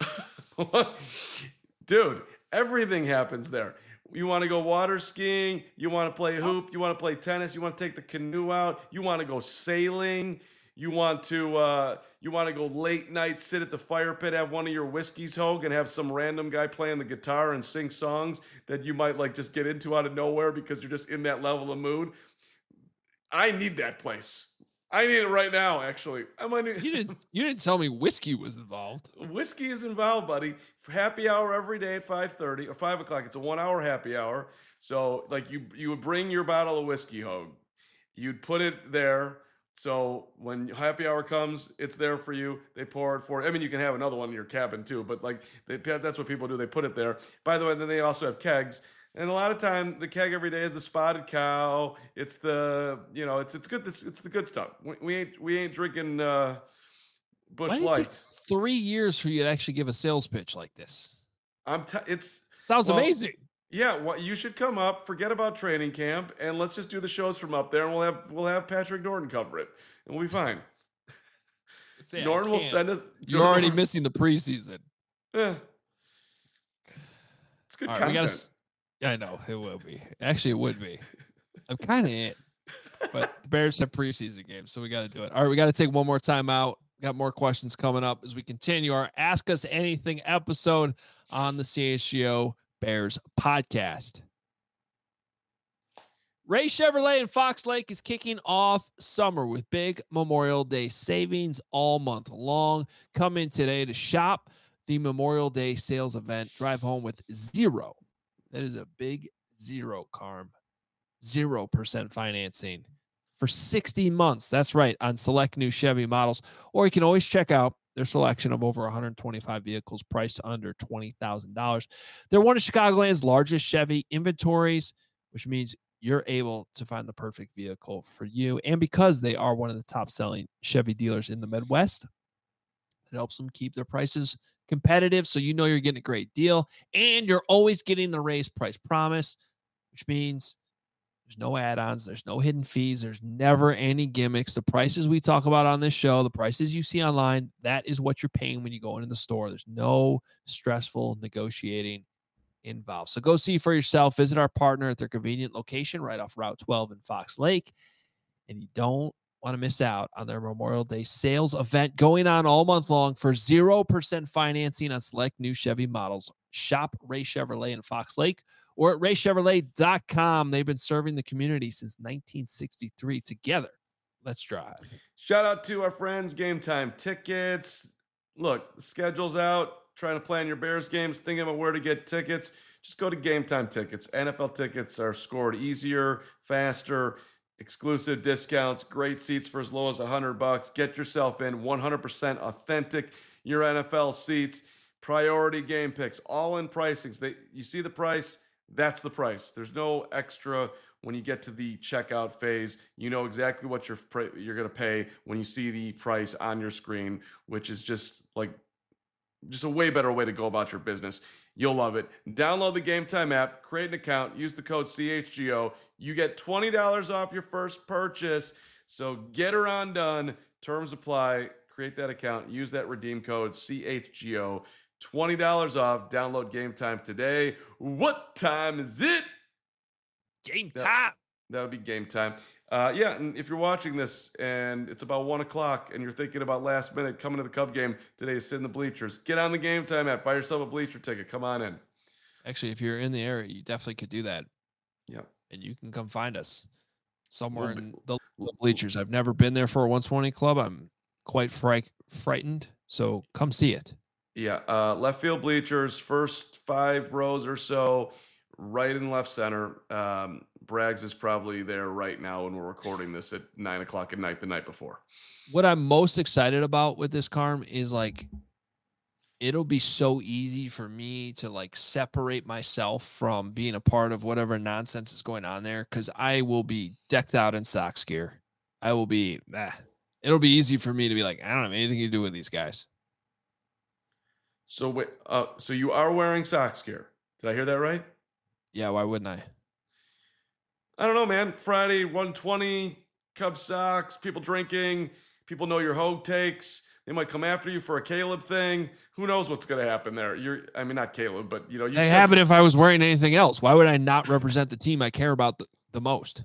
Dude, everything happens there. You want to go water skiing, you want to play hoop, you want to play tennis, you want to take the canoe out, you want to go sailing, you want to go late night, sit at the fire pit, have one of your whiskeys, Hogue, and have some random guy playing the guitar and sing songs that you might like just get into out of nowhere because you're just in that level of mood. I need that place. I need it right now, actually. You didn't tell me whiskey was involved. Whiskey is involved, buddy. Happy hour every day at 5:30 or 5 o'clock. It's a 1 hour happy hour. So like you would bring your bottle of whiskey, Hogue. You'd put it there. So when happy hour comes, it's there for you. They pour it for you. I mean, you can have another one in your cabin too, but like that's what people do. They put it there. By the way, then they also have kegs. And a lot of time, the keg every day is the Spotted Cow. It's the it's good. It's the good stuff. We ain't drinking Busch Light. It take 3 years for you to actually give a sales pitch like this? Sounds amazing. Yeah, well, you should come up. Forget about training camp, and let's just do the shows from up there, and we'll have Patrick Norton cover it, and we'll be fine. Norton will send us. You're already missing the preseason. Yeah, it's good content. I know it will be. Actually, it would be. I'm kind of in, but the Bears have preseason games, so we got to do it. All right, we got to take one more time out. Got more questions coming up as we continue our Ask Us Anything episode on the CHGO Bears podcast. Ray Chevrolet in Fox Lake is kicking off summer with big Memorial Day savings all month long. Come in today to shop the Memorial Day sales event. Drive home with zero. That is a big zero, Carm. 0% financing for 60 months. That's right, on select new Chevy models. Or you can always check out their selection of over 125 vehicles priced under $20,000. They're one of Chicagoland's largest Chevy inventories, which means you're able to find the perfect vehicle for you. And because they are one of the top-selling Chevy dealers in the Midwest, it helps them keep their prices competitive, so you know you're getting a great deal, and you're always getting the raised price promise, which means There's no add-ons. There's no hidden fees. There's never any gimmicks. The prices we talk about on this show, the prices you see online, that is what you're paying when you go into the store. There's no stressful negotiating involved. So go see for yourself. Visit our partner at their convenient location right off Route 12 in Fox Lake. And you don't want to miss out on their Memorial Day sales event going on all month long for 0% financing on select new Chevy models. Shop Ray Chevrolet in Fox Lake or at raychevrolet.com. They've been serving the community since 1963. Together, let's drive. Shout out to our friends, Game Time Tickets. Look, the schedule's out. Trying to plan your Bears games, thinking about where to get tickets. Just go to Game Time Tickets. NFL tickets are scored easier, faster, exclusive discounts, great seats for as low as $100. Get yourself in 100% authentic your NFL seats. Priority game picks, all in pricings. You see the price, that's the price. There's no extra when you get to the checkout phase. You know exactly what you're going to pay when you see the price on your screen, which is just a way better way to go about your business. You'll love it. Download the Game Time app, create an account, use the code CHGO. You get $20 off your first purchase. So get her on done. Terms apply. Create that account. Use that redeem code CHGO. $20 off. Download Game Time today. What time is it? Game time. That would be game time. Yeah, and if you're watching this and it's about 1 o'clock and you're thinking about last minute coming to the Cub game today, sit in the bleachers. Get on the Game Time app. Buy yourself a bleacher ticket. Come on in. Actually, if you're in the area, you definitely could do that. Yeah. And you can come find us somewhere in the bleachers. I've never been there for a 120 club. I'm quite frightened. So come see it. Yeah. Left field bleachers, first 5 rows or so, right in left center. Braggs is probably there right now when we're recording this at 9 o'clock at night the night before. What I'm most excited about with this, Carm, is it'll be so easy for me to separate myself from being a part of whatever nonsense is going on there, because I will be decked out in Sox gear. I will be, it'll be easy for me to be like, I don't have anything to do with these guys. So wait, so you are wearing Sox gear. Did I hear that right? Yeah, why wouldn't I? I don't know, man. Friday, 120, Cubs Sox, people drinking, people know your Hogue takes. They might come after you for a Caleb thing. Who knows what's going to happen there? Not Caleb, but you have it if I was wearing anything else. Why would I not represent the team I care about the most?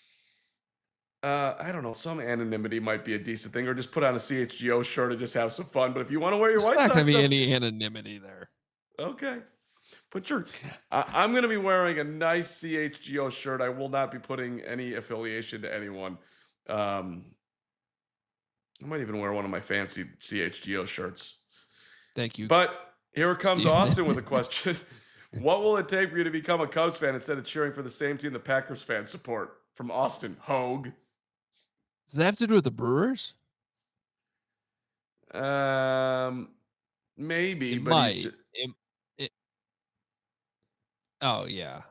I don't know. Some anonymity might be a decent thing, or just put on a CHGO shirt and just have some fun. But if you want to wear your White Sox, not going to be any anonymity there. Okay. I'm going to be wearing a nice CHGO shirt. I will not be putting any affiliation to anyone. I might even wear one of my fancy CHGO shirts. Thank you. But here comes Austin with a question. What will it take for you to become a Cubs fan instead of cheering for the same team the Packers fans support? From Austin, Hogue. Does that have to do with the Brewers? Maybe, it but might. Oh, yeah.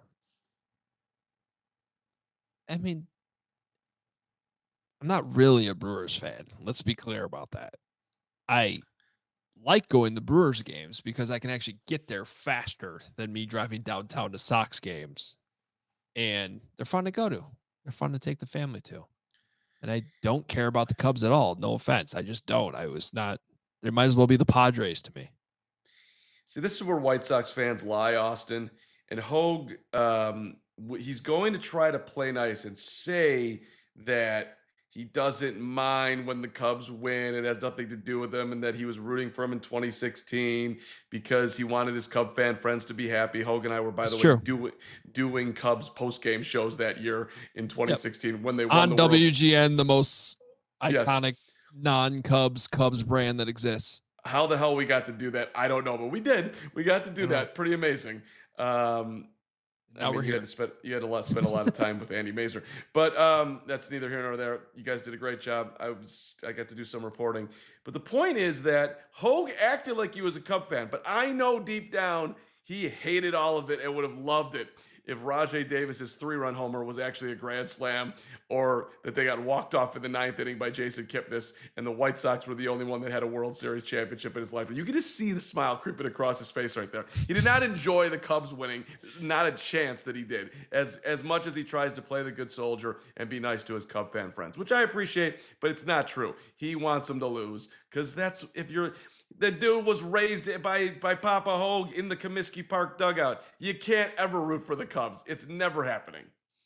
I mean, I'm not really a Brewers fan. Let's be clear about that. I like going to Brewers games because I can actually get there faster than me driving downtown to Sox games. And they're fun to go to. They're fun to take the family to. And I don't care about the Cubs at all. No offense. I just don't. They might as well be the Padres to me. See, this is where White Sox fans lie, Austin. And Hogue, he's going to try to play nice and say that he doesn't mind when the Cubs win. It has nothing to do with them, and that he was rooting for him in 2016 because he wanted his Cub fan friends to be happy. Hogue and I were, by the way, doing Cubs post-game shows that year in 2016 when they won on the WGN, the most iconic non-Cubs brand that exists. How the hell we got to do that, I don't know, but we did. We got to do that. Pretty amazing. We're here. You had to spend a lot of time with Andy Mazer, but that's neither here nor there. You guys did a great job. I got to do some reporting, but the point is that Hogue acted like he was a Cub fan, but I know deep down he hated all of it and would have loved it if Rajai Davis's 3-run homer was actually a grand slam, or that they got walked off in the 9th inning by Jason Kipnis, and the White Sox were the only one that had a World Series championship in his life. You can just see the smile creeping across his face right there. He did not enjoy the Cubs winning. Not a chance that he did. As much as he tries to play the good soldier and be nice to his Cub fan friends, which I appreciate, but it's not true. He wants them to lose, because that's, if you're, the dude was raised by Papa Hogue in the Comiskey Park dugout. You can't ever root for the Cubs. It's never happening.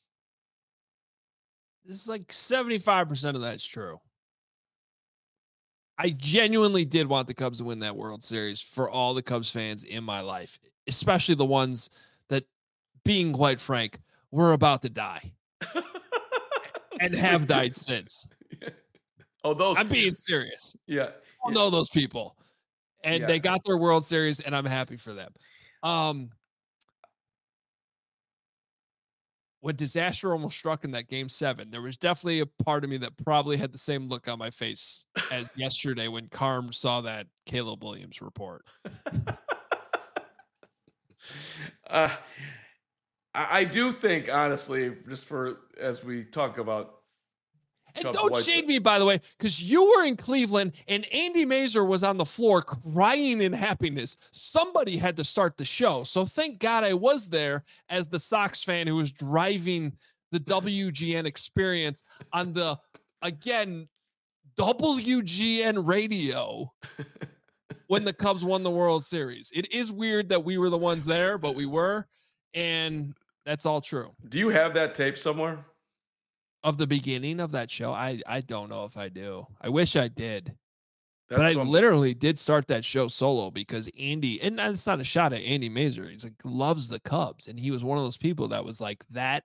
This is like 75% of that's true. I genuinely did want the Cubs to win that World Series for all the Cubs fans in my life, especially the ones that, being quite frank, were about to die and have died since. Oh, those. I'm being serious. Yeah. I know those people. And they got their World Series, and I'm happy for them. When disaster almost struck in that Game 7, there was definitely a part of me that probably had the same look on my face as yesterday when Carm saw that Caleb Williams report. I do think, honestly, just for as we talk about. And don't shade me, by the way, because you were in Cleveland and Andy Mazer was on the floor crying in happiness. Somebody had to start the show. So thank God I was there as the Sox fan who was driving the WGN experience on the, again, WGN radio when the Cubs won the World Series. It is weird that we were the ones there, but we were. And that's all true. Do you have that tape somewhere? Of the beginning of that show? I don't know if I do. I wish I did. But I literally did start that show solo because Andy, and it's not a shot at Andy Mazer. He's like, loves the Cubs. And he was one of those people that was like that.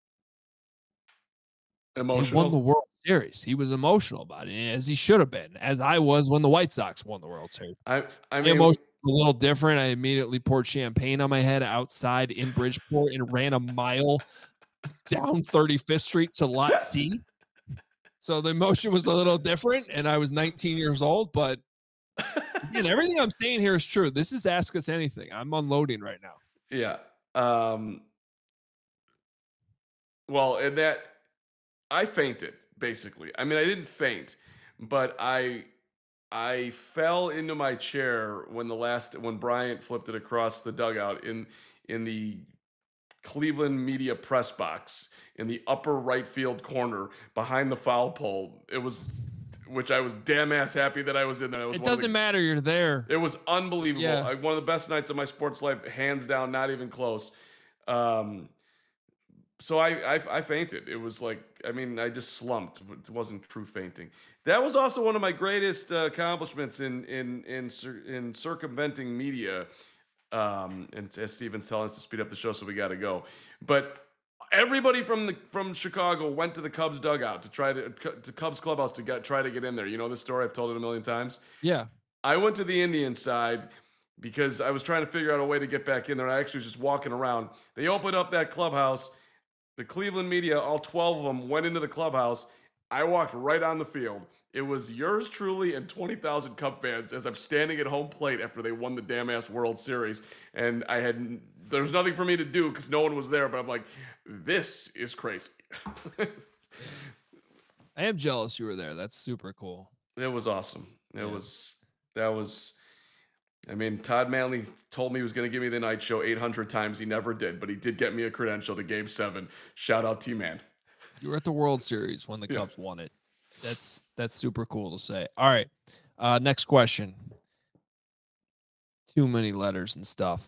Emotional. He won the World Series. He was emotional about it, as he should have been, as I was when the White Sox won the World Series. I mean, the emotion was a little different. I immediately poured champagne on my head outside in Bridgeport and ran a mile down 35th Street to Lot C. So the emotion was a little different, and I was 19 years old, but again, everything I'm saying here is true. This is Ask Us Anything. I'm unloading right now. Yeah. Well, and that I fainted, basically. I mean, I didn't faint, but I fell into my chair when Bryant flipped it across the dugout in the Cleveland media press box in the upper right field corner behind the foul pole. Which I was damn ass happy that I was in there. It doesn't matter. You're there. It was unbelievable. Yeah. One of the best nights of my sports life, hands down, not even close. So I fainted. It was like, I mean, I just slumped. It wasn't true fainting. That was also one of my greatest accomplishments in circumventing media. And as Steven's telling us to speed up the show, so we got to go. But everybody from Chicago went to the Cubs dugout to Cubs clubhouse to try to get in there. You know this story? I've told it a million times. Yeah. I went to the Indian side because I was trying to figure out a way to get back in there. I actually was just walking around. They opened up that clubhouse. The Cleveland media, all 12 of them, went into the clubhouse. I walked right on the field. It was yours truly and 20,000 Cub fans as I'm standing at home plate after they won the damn ass World Series. And there was nothing for me to do because no one was there, but I'm like, this is crazy. I am jealous you were there. That's super cool. It was awesome. I mean, Todd Manley told me he was going to give me the night show 800 times. He never did, but he did get me a credential to Game 7. Shout out T-Man. You were at the World Series when the Cubs won it. That's super cool to say. All right. Next question. Too many letters and stuff.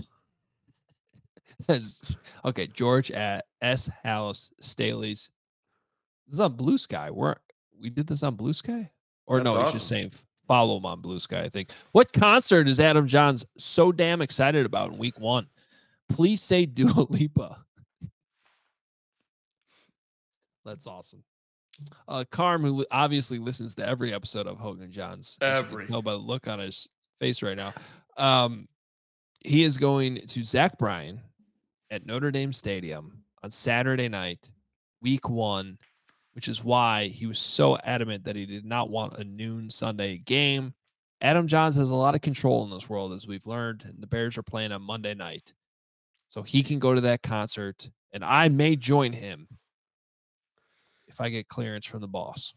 Okay, George at S House Staley's. This is on Blue Sky. We did this on Blue Sky? Or That's no, he's awesome. just saying follow him on Blue Sky, I think. What concert is Adam Johns so damn excited about in week 1? Please say Dua Lipa. That's awesome. Carm, who obviously listens to every episode of Hogan Johns, as you can tell by the look on his face right now. He is going to Zach Bryan at Notre Dame Stadium on Saturday night, week 1, which is why he was so adamant that he did not want a noon Sunday game. Adam Johns has a lot of control in this world, as we've learned, and the Bears are playing on Monday night. so he can go to that concert, and I may join him if I get clearance from the boss.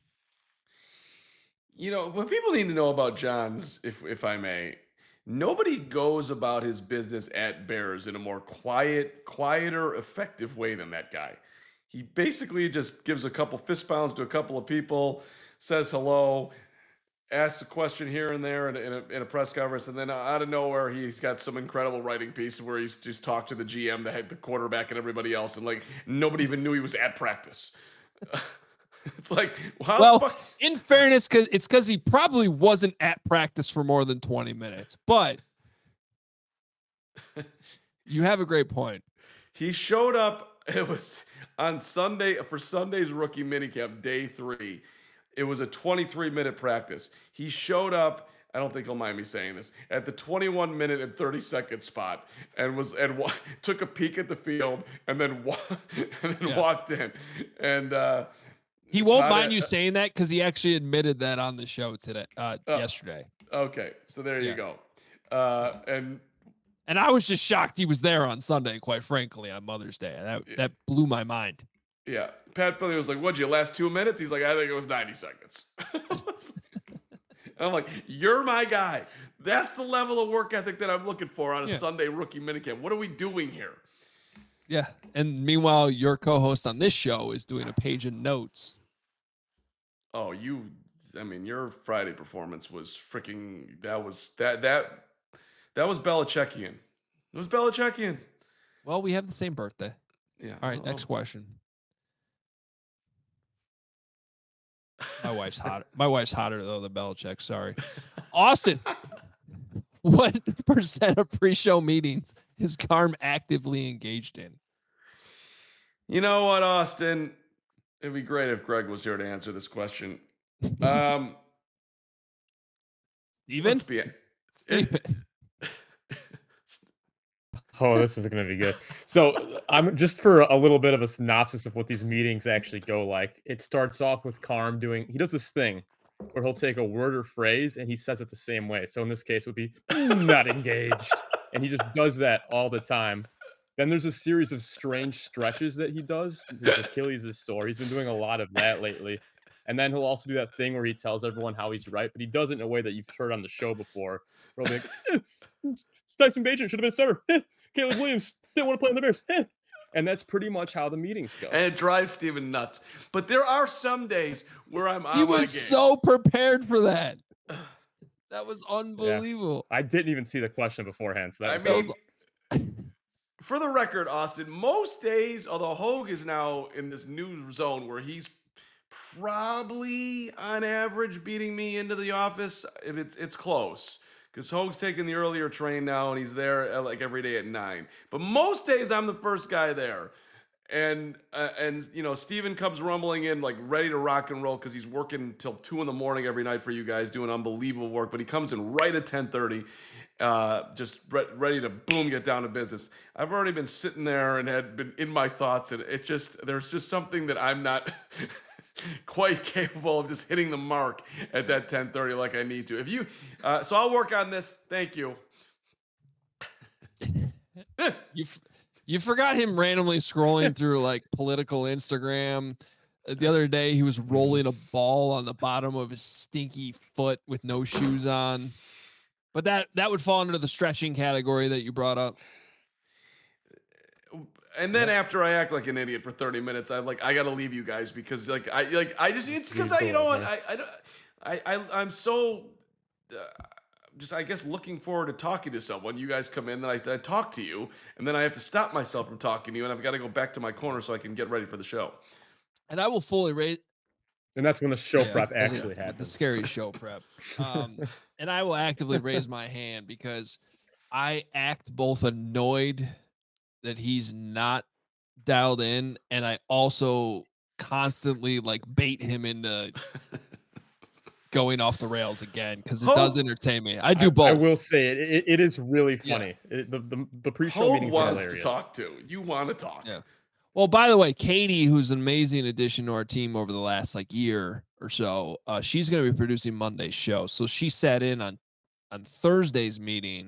What people need to know about Johns, if I may, nobody goes about his business at Bears in a more quieter, effective way than that guy. He basically just gives a couple fist pounds to a couple of people, says hello, asks a question here and there in a press conference, and then out of nowhere, he's got some incredible writing piece where he's just talked to the GM, the quarterback, and everybody else, and like nobody even knew he was at practice. It's like, in fairness, because he probably wasn't at practice for more than 20 minutes, but you have a great point. He showed up. It was on Sunday for Sunday's rookie minicamp, day 3. It was a 23-minute practice. He showed up. I don't think he'll mind me saying this, at the 21-minute and 30-second spot, and took a peek at the field, and then walked in, and. He won't mind you saying that because he actually admitted that on the show today, yesterday. Okay, so there you go. And I was just shocked he was there on Sunday, quite frankly, on Mother's Day. That blew my mind. Yeah, Pat Philly was like, "What'd you last 2 minutes?" He's like, "I think it was 90 seconds." And I'm like, "You're my guy. That's the level of work ethic that I'm looking for on a Sunday rookie minicamp. What are we doing here?" Yeah, and meanwhile, your co-host on this show is doing a page of notes. Oh, your Friday performance was freaking. That was Belichickian. It was Belichickian. Well, we have the same birthday. Yeah. All right, next question. My wife's hotter though than Belichick. Sorry, Austin. What percent of pre-show meetings is Carm actively engaged in? You know what, Austin? It'd be great if Greg was here to answer this question. Steven? Steven. Oh, this is going to be good. So I'm just for a little bit of a synopsis of what these meetings actually go like. It starts off with Carm he does this thing where he'll take a word or phrase and he says it the same way. So in this case, it would be not engaged. And he just does that all the time. Then there's a series of strange stretches that he does. His Achilles is sore. He's been doing a lot of that lately. And then he'll also do that thing where he tells everyone how he's right, but he does it in a way that you've heard on the show before. Where he'll be like, Tyson Bagent should have been a starter. Caleb Williams didn't want to play on the Bears. And that's pretty much how the meetings go. And it drives Steven nuts. But there are some days where I'm on my game. He was so prepared for that. That was unbelievable. Yeah. I didn't even see the question beforehand. So for the record, Austin, most days, although Hogue is now in this new zone where he's probably on average beating me into the office, it's close. Because Hogue's taking the earlier train now, and he's there like every day at 9. But most days, I'm the first guy there. And Steven comes rumbling in, like, ready to rock and roll because he's working till 2 in the morning every night for you guys, doing unbelievable work. But he comes in right at 10:30, just ready to, boom, get down to business. I've already been sitting there and had been in my thoughts, and there's just something that I'm not quite capable of just hitting the mark at that 10:30 like I need to. So I'll work on this. Thank you. You forgot him randomly scrolling through like political Instagram. The other day, he was rolling a ball on the bottom of his stinky foot with no shoes on. But that would fall under the stretching category that you brought up. And then after I act like an idiot for 30 minutes, I'm like, I got to leave you guys because it's because I'm so just, I guess, looking forward to talking to someone. You guys come in, then I talk to you, and then I have to stop myself from talking to you, and I've got to go back to my corner so I can get ready for the show. And I will fully rate. And that's when the show prep actually happens. The scary show prep. And I will actively raise my hand because I act both annoyed that he's not dialed in, and I also constantly like bait him into going off the rails again because it does entertain me. I do both. I will say it is really funny. Yeah. The pre-show meetings are hilarious. To talk to you want to talk. Yeah. Well, by the way, Katie, who's an amazing addition to our team over the last year or so, she's going to be producing Monday's show. So she sat in on Thursday's meeting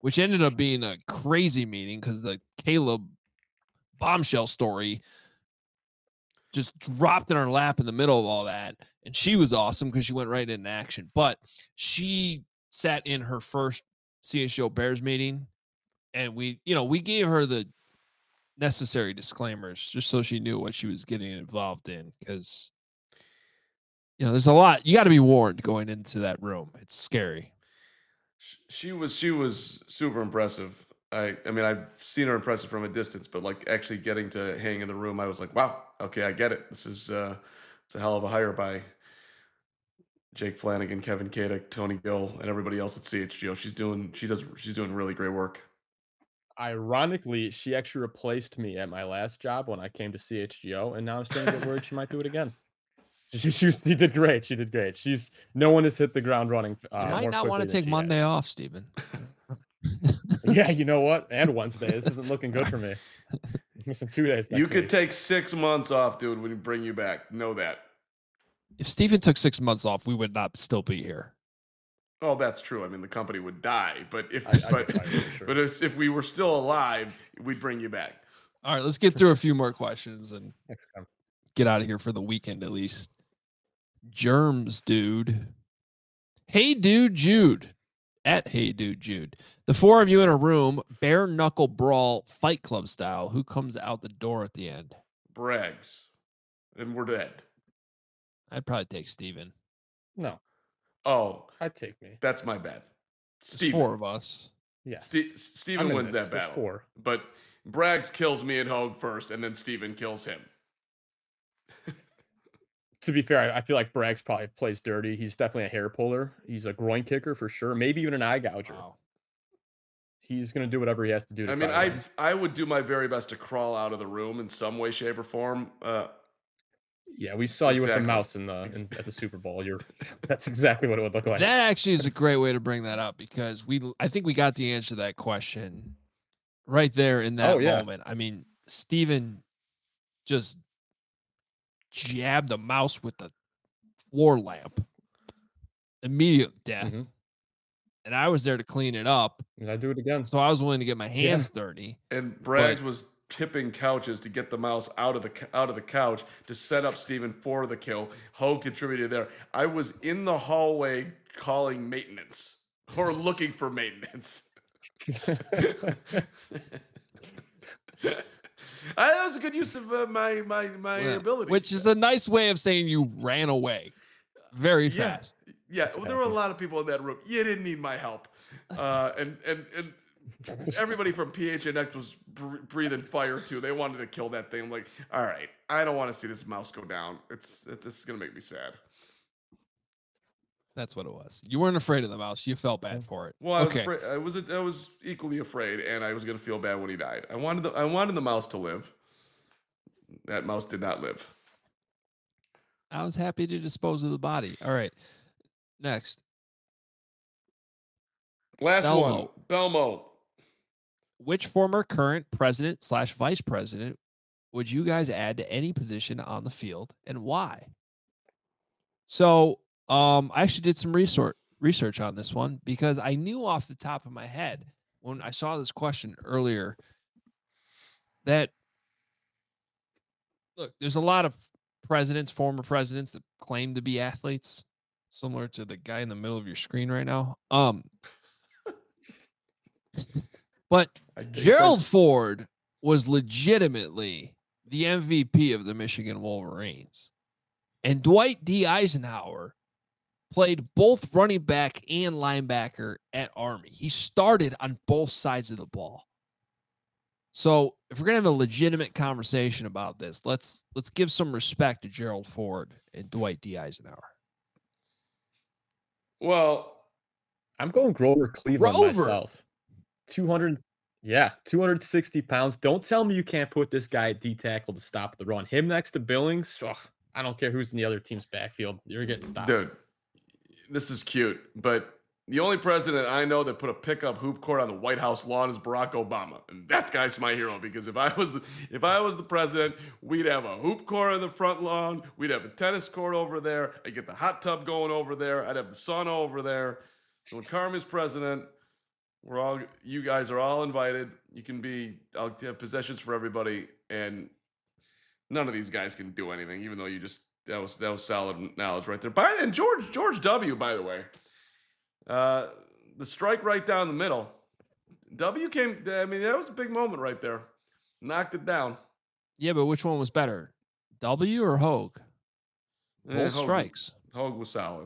which ended up being a crazy meeting because the Caleb bombshell story just dropped in our lap in the middle of all that. And she was awesome because she went right into action. But she sat in her first CHGO Bears meeting, and we gave her the necessary disclaimers just so she knew what she was getting involved in, because there's a lot. You got to be warned going into that room. It's scary. She was super impressive. I mean, I've seen her impressive from a distance, but like actually getting to hang in the room, I was like, wow, okay, I get it. This is it's a hell of a hire by Jake Flanagan, Kevin Kadek, Tony Gill, and everybody else at CHGO. She's doing really great work. Ironically, she actually replaced me at my last job when I came to CHGO, and now I'm starting to get worried she might do it again. She did great. She did great. No one has hit the ground running. You might not want to take Monday off, Steven. Yeah, you know what? And Wednesday. This isn't looking good for me. Missing 2 days. You could take 6 months off, dude, when we bring you back. Know that. If Steven took 6 months off, we would not still be here. Oh, that's true. I mean, the company would die, but if sure. but if we were still alive, we'd bring you back. All right, let's get through a few more questions and Next time. Get out of here for the weekend at least. Germs, dude. Hey, dude, Jude. At Hey Dude Jude. The four of you in a room, bare knuckle brawl, Fight Club style. Who comes out the door at the end? Braggs. And we're dead. I'd probably take Steven. No. Oh. I'd take me. That's my bad. Steven. Four of us. Yeah. Steven wins that battle. Four. But Braggs kills me and Hogue first, and then Steven kills him. To be fair, I feel like Braggs probably plays dirty. He's definitely a hair puller. He's a groin kicker for sure. Maybe even an eye gouger. Wow. He's going to do whatever he has to do. I mean, I would do my very best to crawl out of the room in some way, shape, or form. Yeah, we saw you with the mouse at the Super Bowl. That's exactly what it would look like. That actually is a great way to bring that up, because I think we got the answer to that question right there in that moment. I mean, Steven just jabbed the mouse with the floor lamp. Immediate death. Mm-hmm. And I was there to clean it up. And I do it again. So I was willing to get my hands dirty. And Braggs was tipping couches to get the mouse out of the couch to set up Steven for the kill. Hogue contributed there. I was in the hallway calling maintenance or looking for maintenance. That was a good use of my abilities. Which is a nice way of saying you ran away very fast. Yeah, well, there were a lot of people in that room. You didn't need my help. And everybody from PHNX was breathing fire too. They wanted to kill that thing. I'm like, all right, I don't want to see this mouse go down. This is gonna make me sad. That's what it was. You weren't afraid of the mouse. You felt bad for it. Well, I was afraid. I was equally afraid, and I was gonna feel bad when he died. I wanted the mouse to live. That mouse did not live. I was happy to dispose of the body. All right. Next. Last one. Belmo. Which former current president / vice president would you guys add to any position on the field, and why? So I actually did some research on this one, because I knew off the top of my head when I saw this question earlier that, look, there's a lot of former presidents that claim to be athletes, similar to the guy in the middle of your screen right now. But Gerald Ford was legitimately the MVP of the Michigan Wolverines. And Dwight D. Eisenhower played both running back and linebacker at Army. He started on both sides of the ball. So if we're going to have a legitimate conversation about this, let's give some respect to Gerald Ford and Dwight D. Eisenhower. Well, I'm going Grover Cleveland myself. 260 pounds. Don't tell me you can't put this guy at D tackle to stop the run. Him next to Billings. I don't care who's in the other team's backfield. You're getting stopped. Dude, this is cute, but the only president I know that put a pickup hoop court on the White House lawn is Barack Obama, and that guy's my hero, because if I was the president, we'd have a hoop court on the front lawn, we'd have a tennis court over there, I'd get the hot tub going over there, I'd have the sauna over there. So when Carmen's president, You guys are all invited. You can be, I'll have possessions for everybody, and none of these guys can do anything, even though that was solid knowledge right there. And George W, by the way, the strike right down the middle. W came, I mean, that was a big moment right there. Knocked it down. Yeah, but which one was better? W or Hogue? Both strikes. Hogue was solid.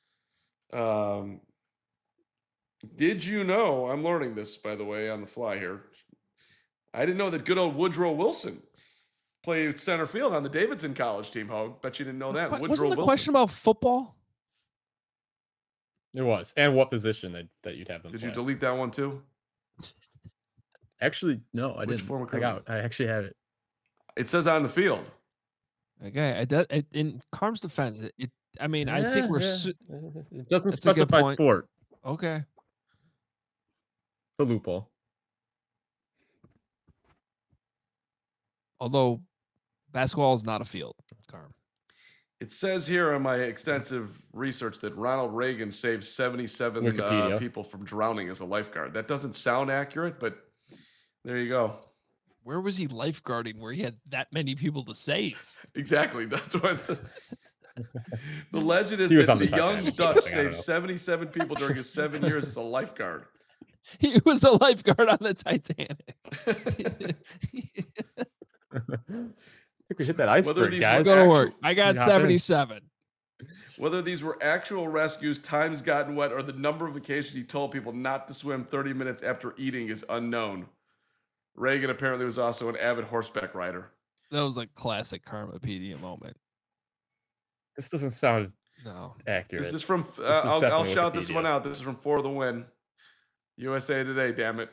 Did you know, I'm learning this, by the way, on the fly here. I didn't know that good old Woodrow Wilson played center field on the Davidson College team, Hogue. Bet you didn't know that. Wasn't the question about football? It was. And what position that you'd have them Did play. you delete that one too? Actually, no, I didn't. Form of I actually have it. It says on the field. Okay, in Carm's defense, I mean, I think we're. It doesn't specify sport. Okay. The loophole. Although basketball is not a field, Carm. It says here on my extensive research that Ronald Reagan saved 77 people from drowning as a lifeguard. That doesn't sound accurate, but there you go. Where was he lifeguarding where he had that many people to save? Exactly. That's what it just. The legend is that the young Dutch saved 77 people during his 7 years as a lifeguard. He was a lifeguard on the Titanic. I think we hit that iceberg, guys. Go to work. I got 77. Whether these were actual rescues, times gotten wet, or the number of occasions he told people not to swim 30 minutes after eating is unknown. Reagan apparently was also an avid horseback rider. That was a classic Karmapedia moment. This doesn't sound accurate. This is from, I'll shout this one out. This is from For the Win. USA Today, damn it.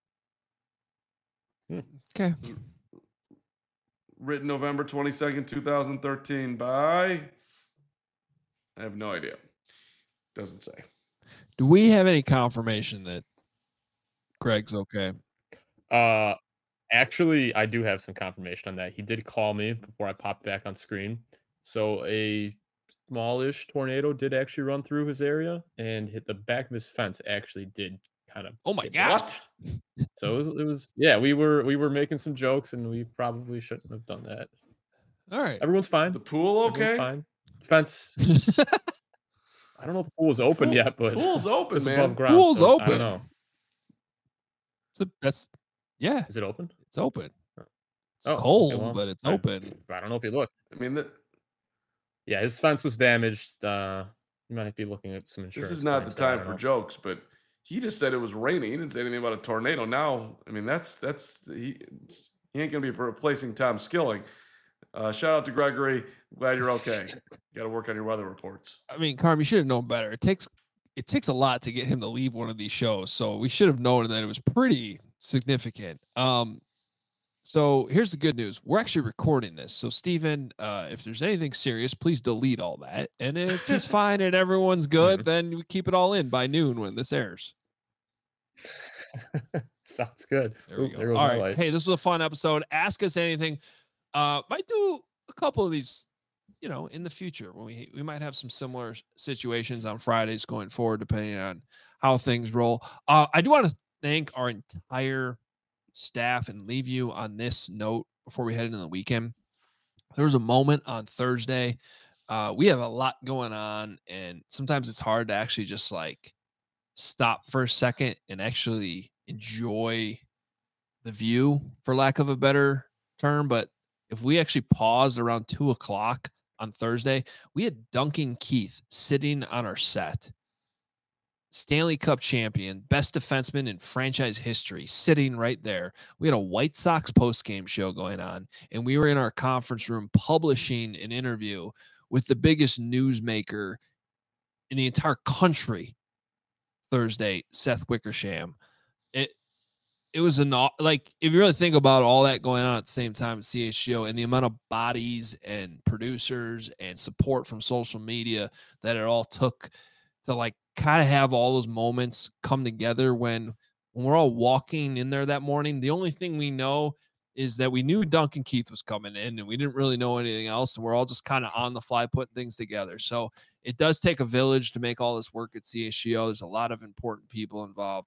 Okay. Written November 22nd, 2013 by... I have no idea. Doesn't say. Do we have any confirmation that Greg's okay? Actually, I do have some confirmation on that. He did call me before I popped back on screen. So a smallish tornado did actually run through his area and hit the back of his fence. Actually, did kind of. Oh my God! What? So it was. Yeah, we were making some jokes, and we probably shouldn't have done that. All right, everyone's fine. Is the pool okay? Fine. Fence. I don't know if the pool is open yet, but pool's open, it's man. above ground. Pool's so open. I don't know. Yeah. Is it open? It's open. It's cold, okay, well, but it's open. I don't know if you looked. I mean, yeah, his fence was damaged. You might be looking at some insurance. This is not the time for jokes, but he just said it was raining. He didn't say anything about a tornado. Now, I mean, he ain't gonna be replacing Tom Skilling. Shout out to Gregory. Glad you're okay. Got to work on your weather reports. I mean, Carm, you should have known better. It takes a lot to get him to leave one of these shows, so we should have known that it was pretty significant. So here's the good news. We're actually recording this. So Steven, if there's anything serious, please delete all that. And if he's fine and everyone's good, then we keep it all in by noon when this airs. Sounds good. There we go. All right. Hey, this was a fun episode. Ask us anything. Might do a couple of these, in the future when we might have some similar situations on Fridays going forward, depending on how things roll. I do want to thank our entire staff and leave you on this note before we head into the weekend. There was a moment on Thursday. We have a lot going on, and sometimes it's hard to actually just stop for a second and actually enjoy the view, for lack of a better term. But if we actually paused around 2:00 on Thursday, we had Duncan Keith sitting on our set. Stanley Cup champion, best defenseman in franchise history, sitting right there. We had a White Sox post-game show going on, and we were in our conference room publishing an interview with the biggest newsmaker in the entire country Thursday, Seth Wickersham. It was if you really think about all that going on at the same time at CHGO and the amount of bodies and producers and support from social media that it all took to kind of have all those moments come together when we're all walking in there that morning. The only thing we know is that we knew Duncan Keith was coming in, and we didn't really know anything else. And we're all just kind of on the fly putting things together. So it does take a village to make all this work at CHGO. There's a lot of important people involved.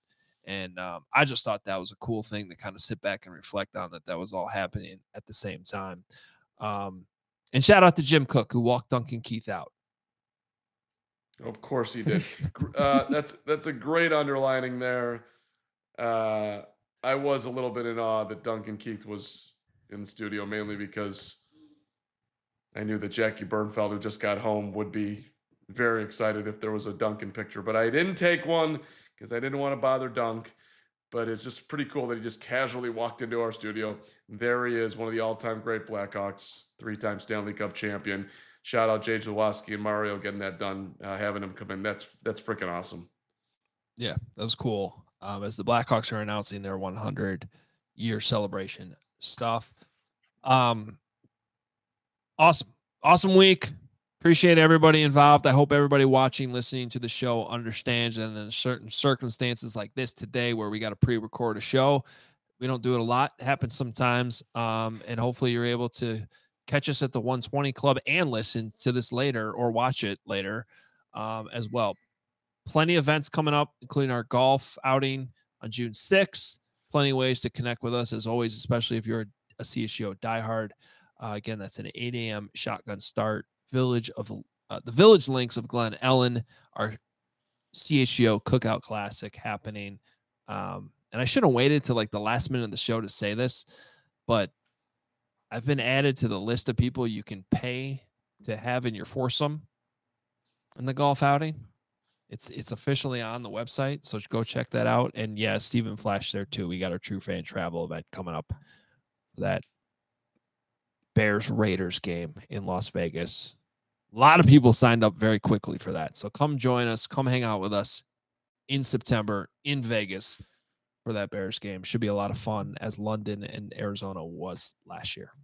And I just thought that was a cool thing to kind of sit back and reflect on, that was all happening at the same time. And shout out to Jim Cook, who walked Duncan Keith out. Of course he did. That's a great underlining there. I was a little bit in awe that Duncan Keith was in the studio, mainly because I knew that Jackie Bernfeld, who just got home, would be very excited if there was a Duncan picture. But I didn't take one because I didn't want to bother Dunk. But it's just pretty cool that he just casually walked into our studio. There he is, one of the all-time great Blackhawks, 3-time Stanley Cup champion. Shout out Jay Jaworski and Mario getting that done, having him come in. That's freaking awesome. Yeah, that was cool. As the Blackhawks are announcing their 100-year celebration stuff. Awesome week. Appreciate everybody involved. I hope everybody watching, listening to the show understands. And then certain circumstances like this today, where we got to pre-record a show, we don't do it a lot. It happens sometimes. And hopefully you're able to catch us at the 120 Club and listen to this later, or watch it later as well. Plenty of events coming up, including our golf outing on June 6th. Plenty of ways to connect with us, as always, especially if you're a CHGO diehard. Again, that's an 8 a.m. shotgun start. The Village Links of Glen Ellen, our CHGO Cookout Classic happening. And I should have waited to like the last minute of the show to say this, but I've been added to the list of people you can pay to have in your foursome in the golf outing. It's officially on the website, so go check that out. And yeah, Stephen Flash there too. We got our True Fan Travel event coming up for that Bears Raiders game in Las Vegas. A lot of people signed up very quickly for that. So come join us, come hang out with us in September in Vegas for that Bears game. Should be a lot of fun, as London and Arizona was last year.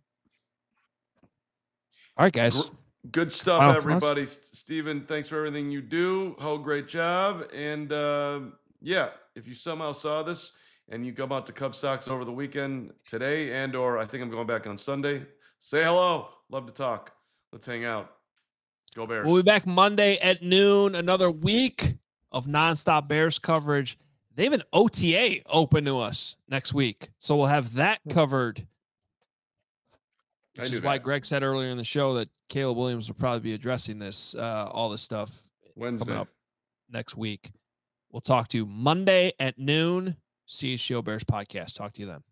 All right, guys. Good stuff, everybody. Steven, thanks for everything you do. Great job. And yeah, if you somehow saw this and you come out to Cub Sox over the weekend today, and or I think I'm going back on Sunday, say hello. Love to talk. Let's hang out. Go Bears. We'll be back Monday at noon. Another week of nonstop Bears coverage. They have an OTA open to us next week, so we'll have that covered. Which is why Greg said earlier in the show that Caleb Williams will probably be addressing this, all this stuff Wednesday coming up next week. We'll talk to you Monday at noon. CHGO Bears podcast. Talk to you then.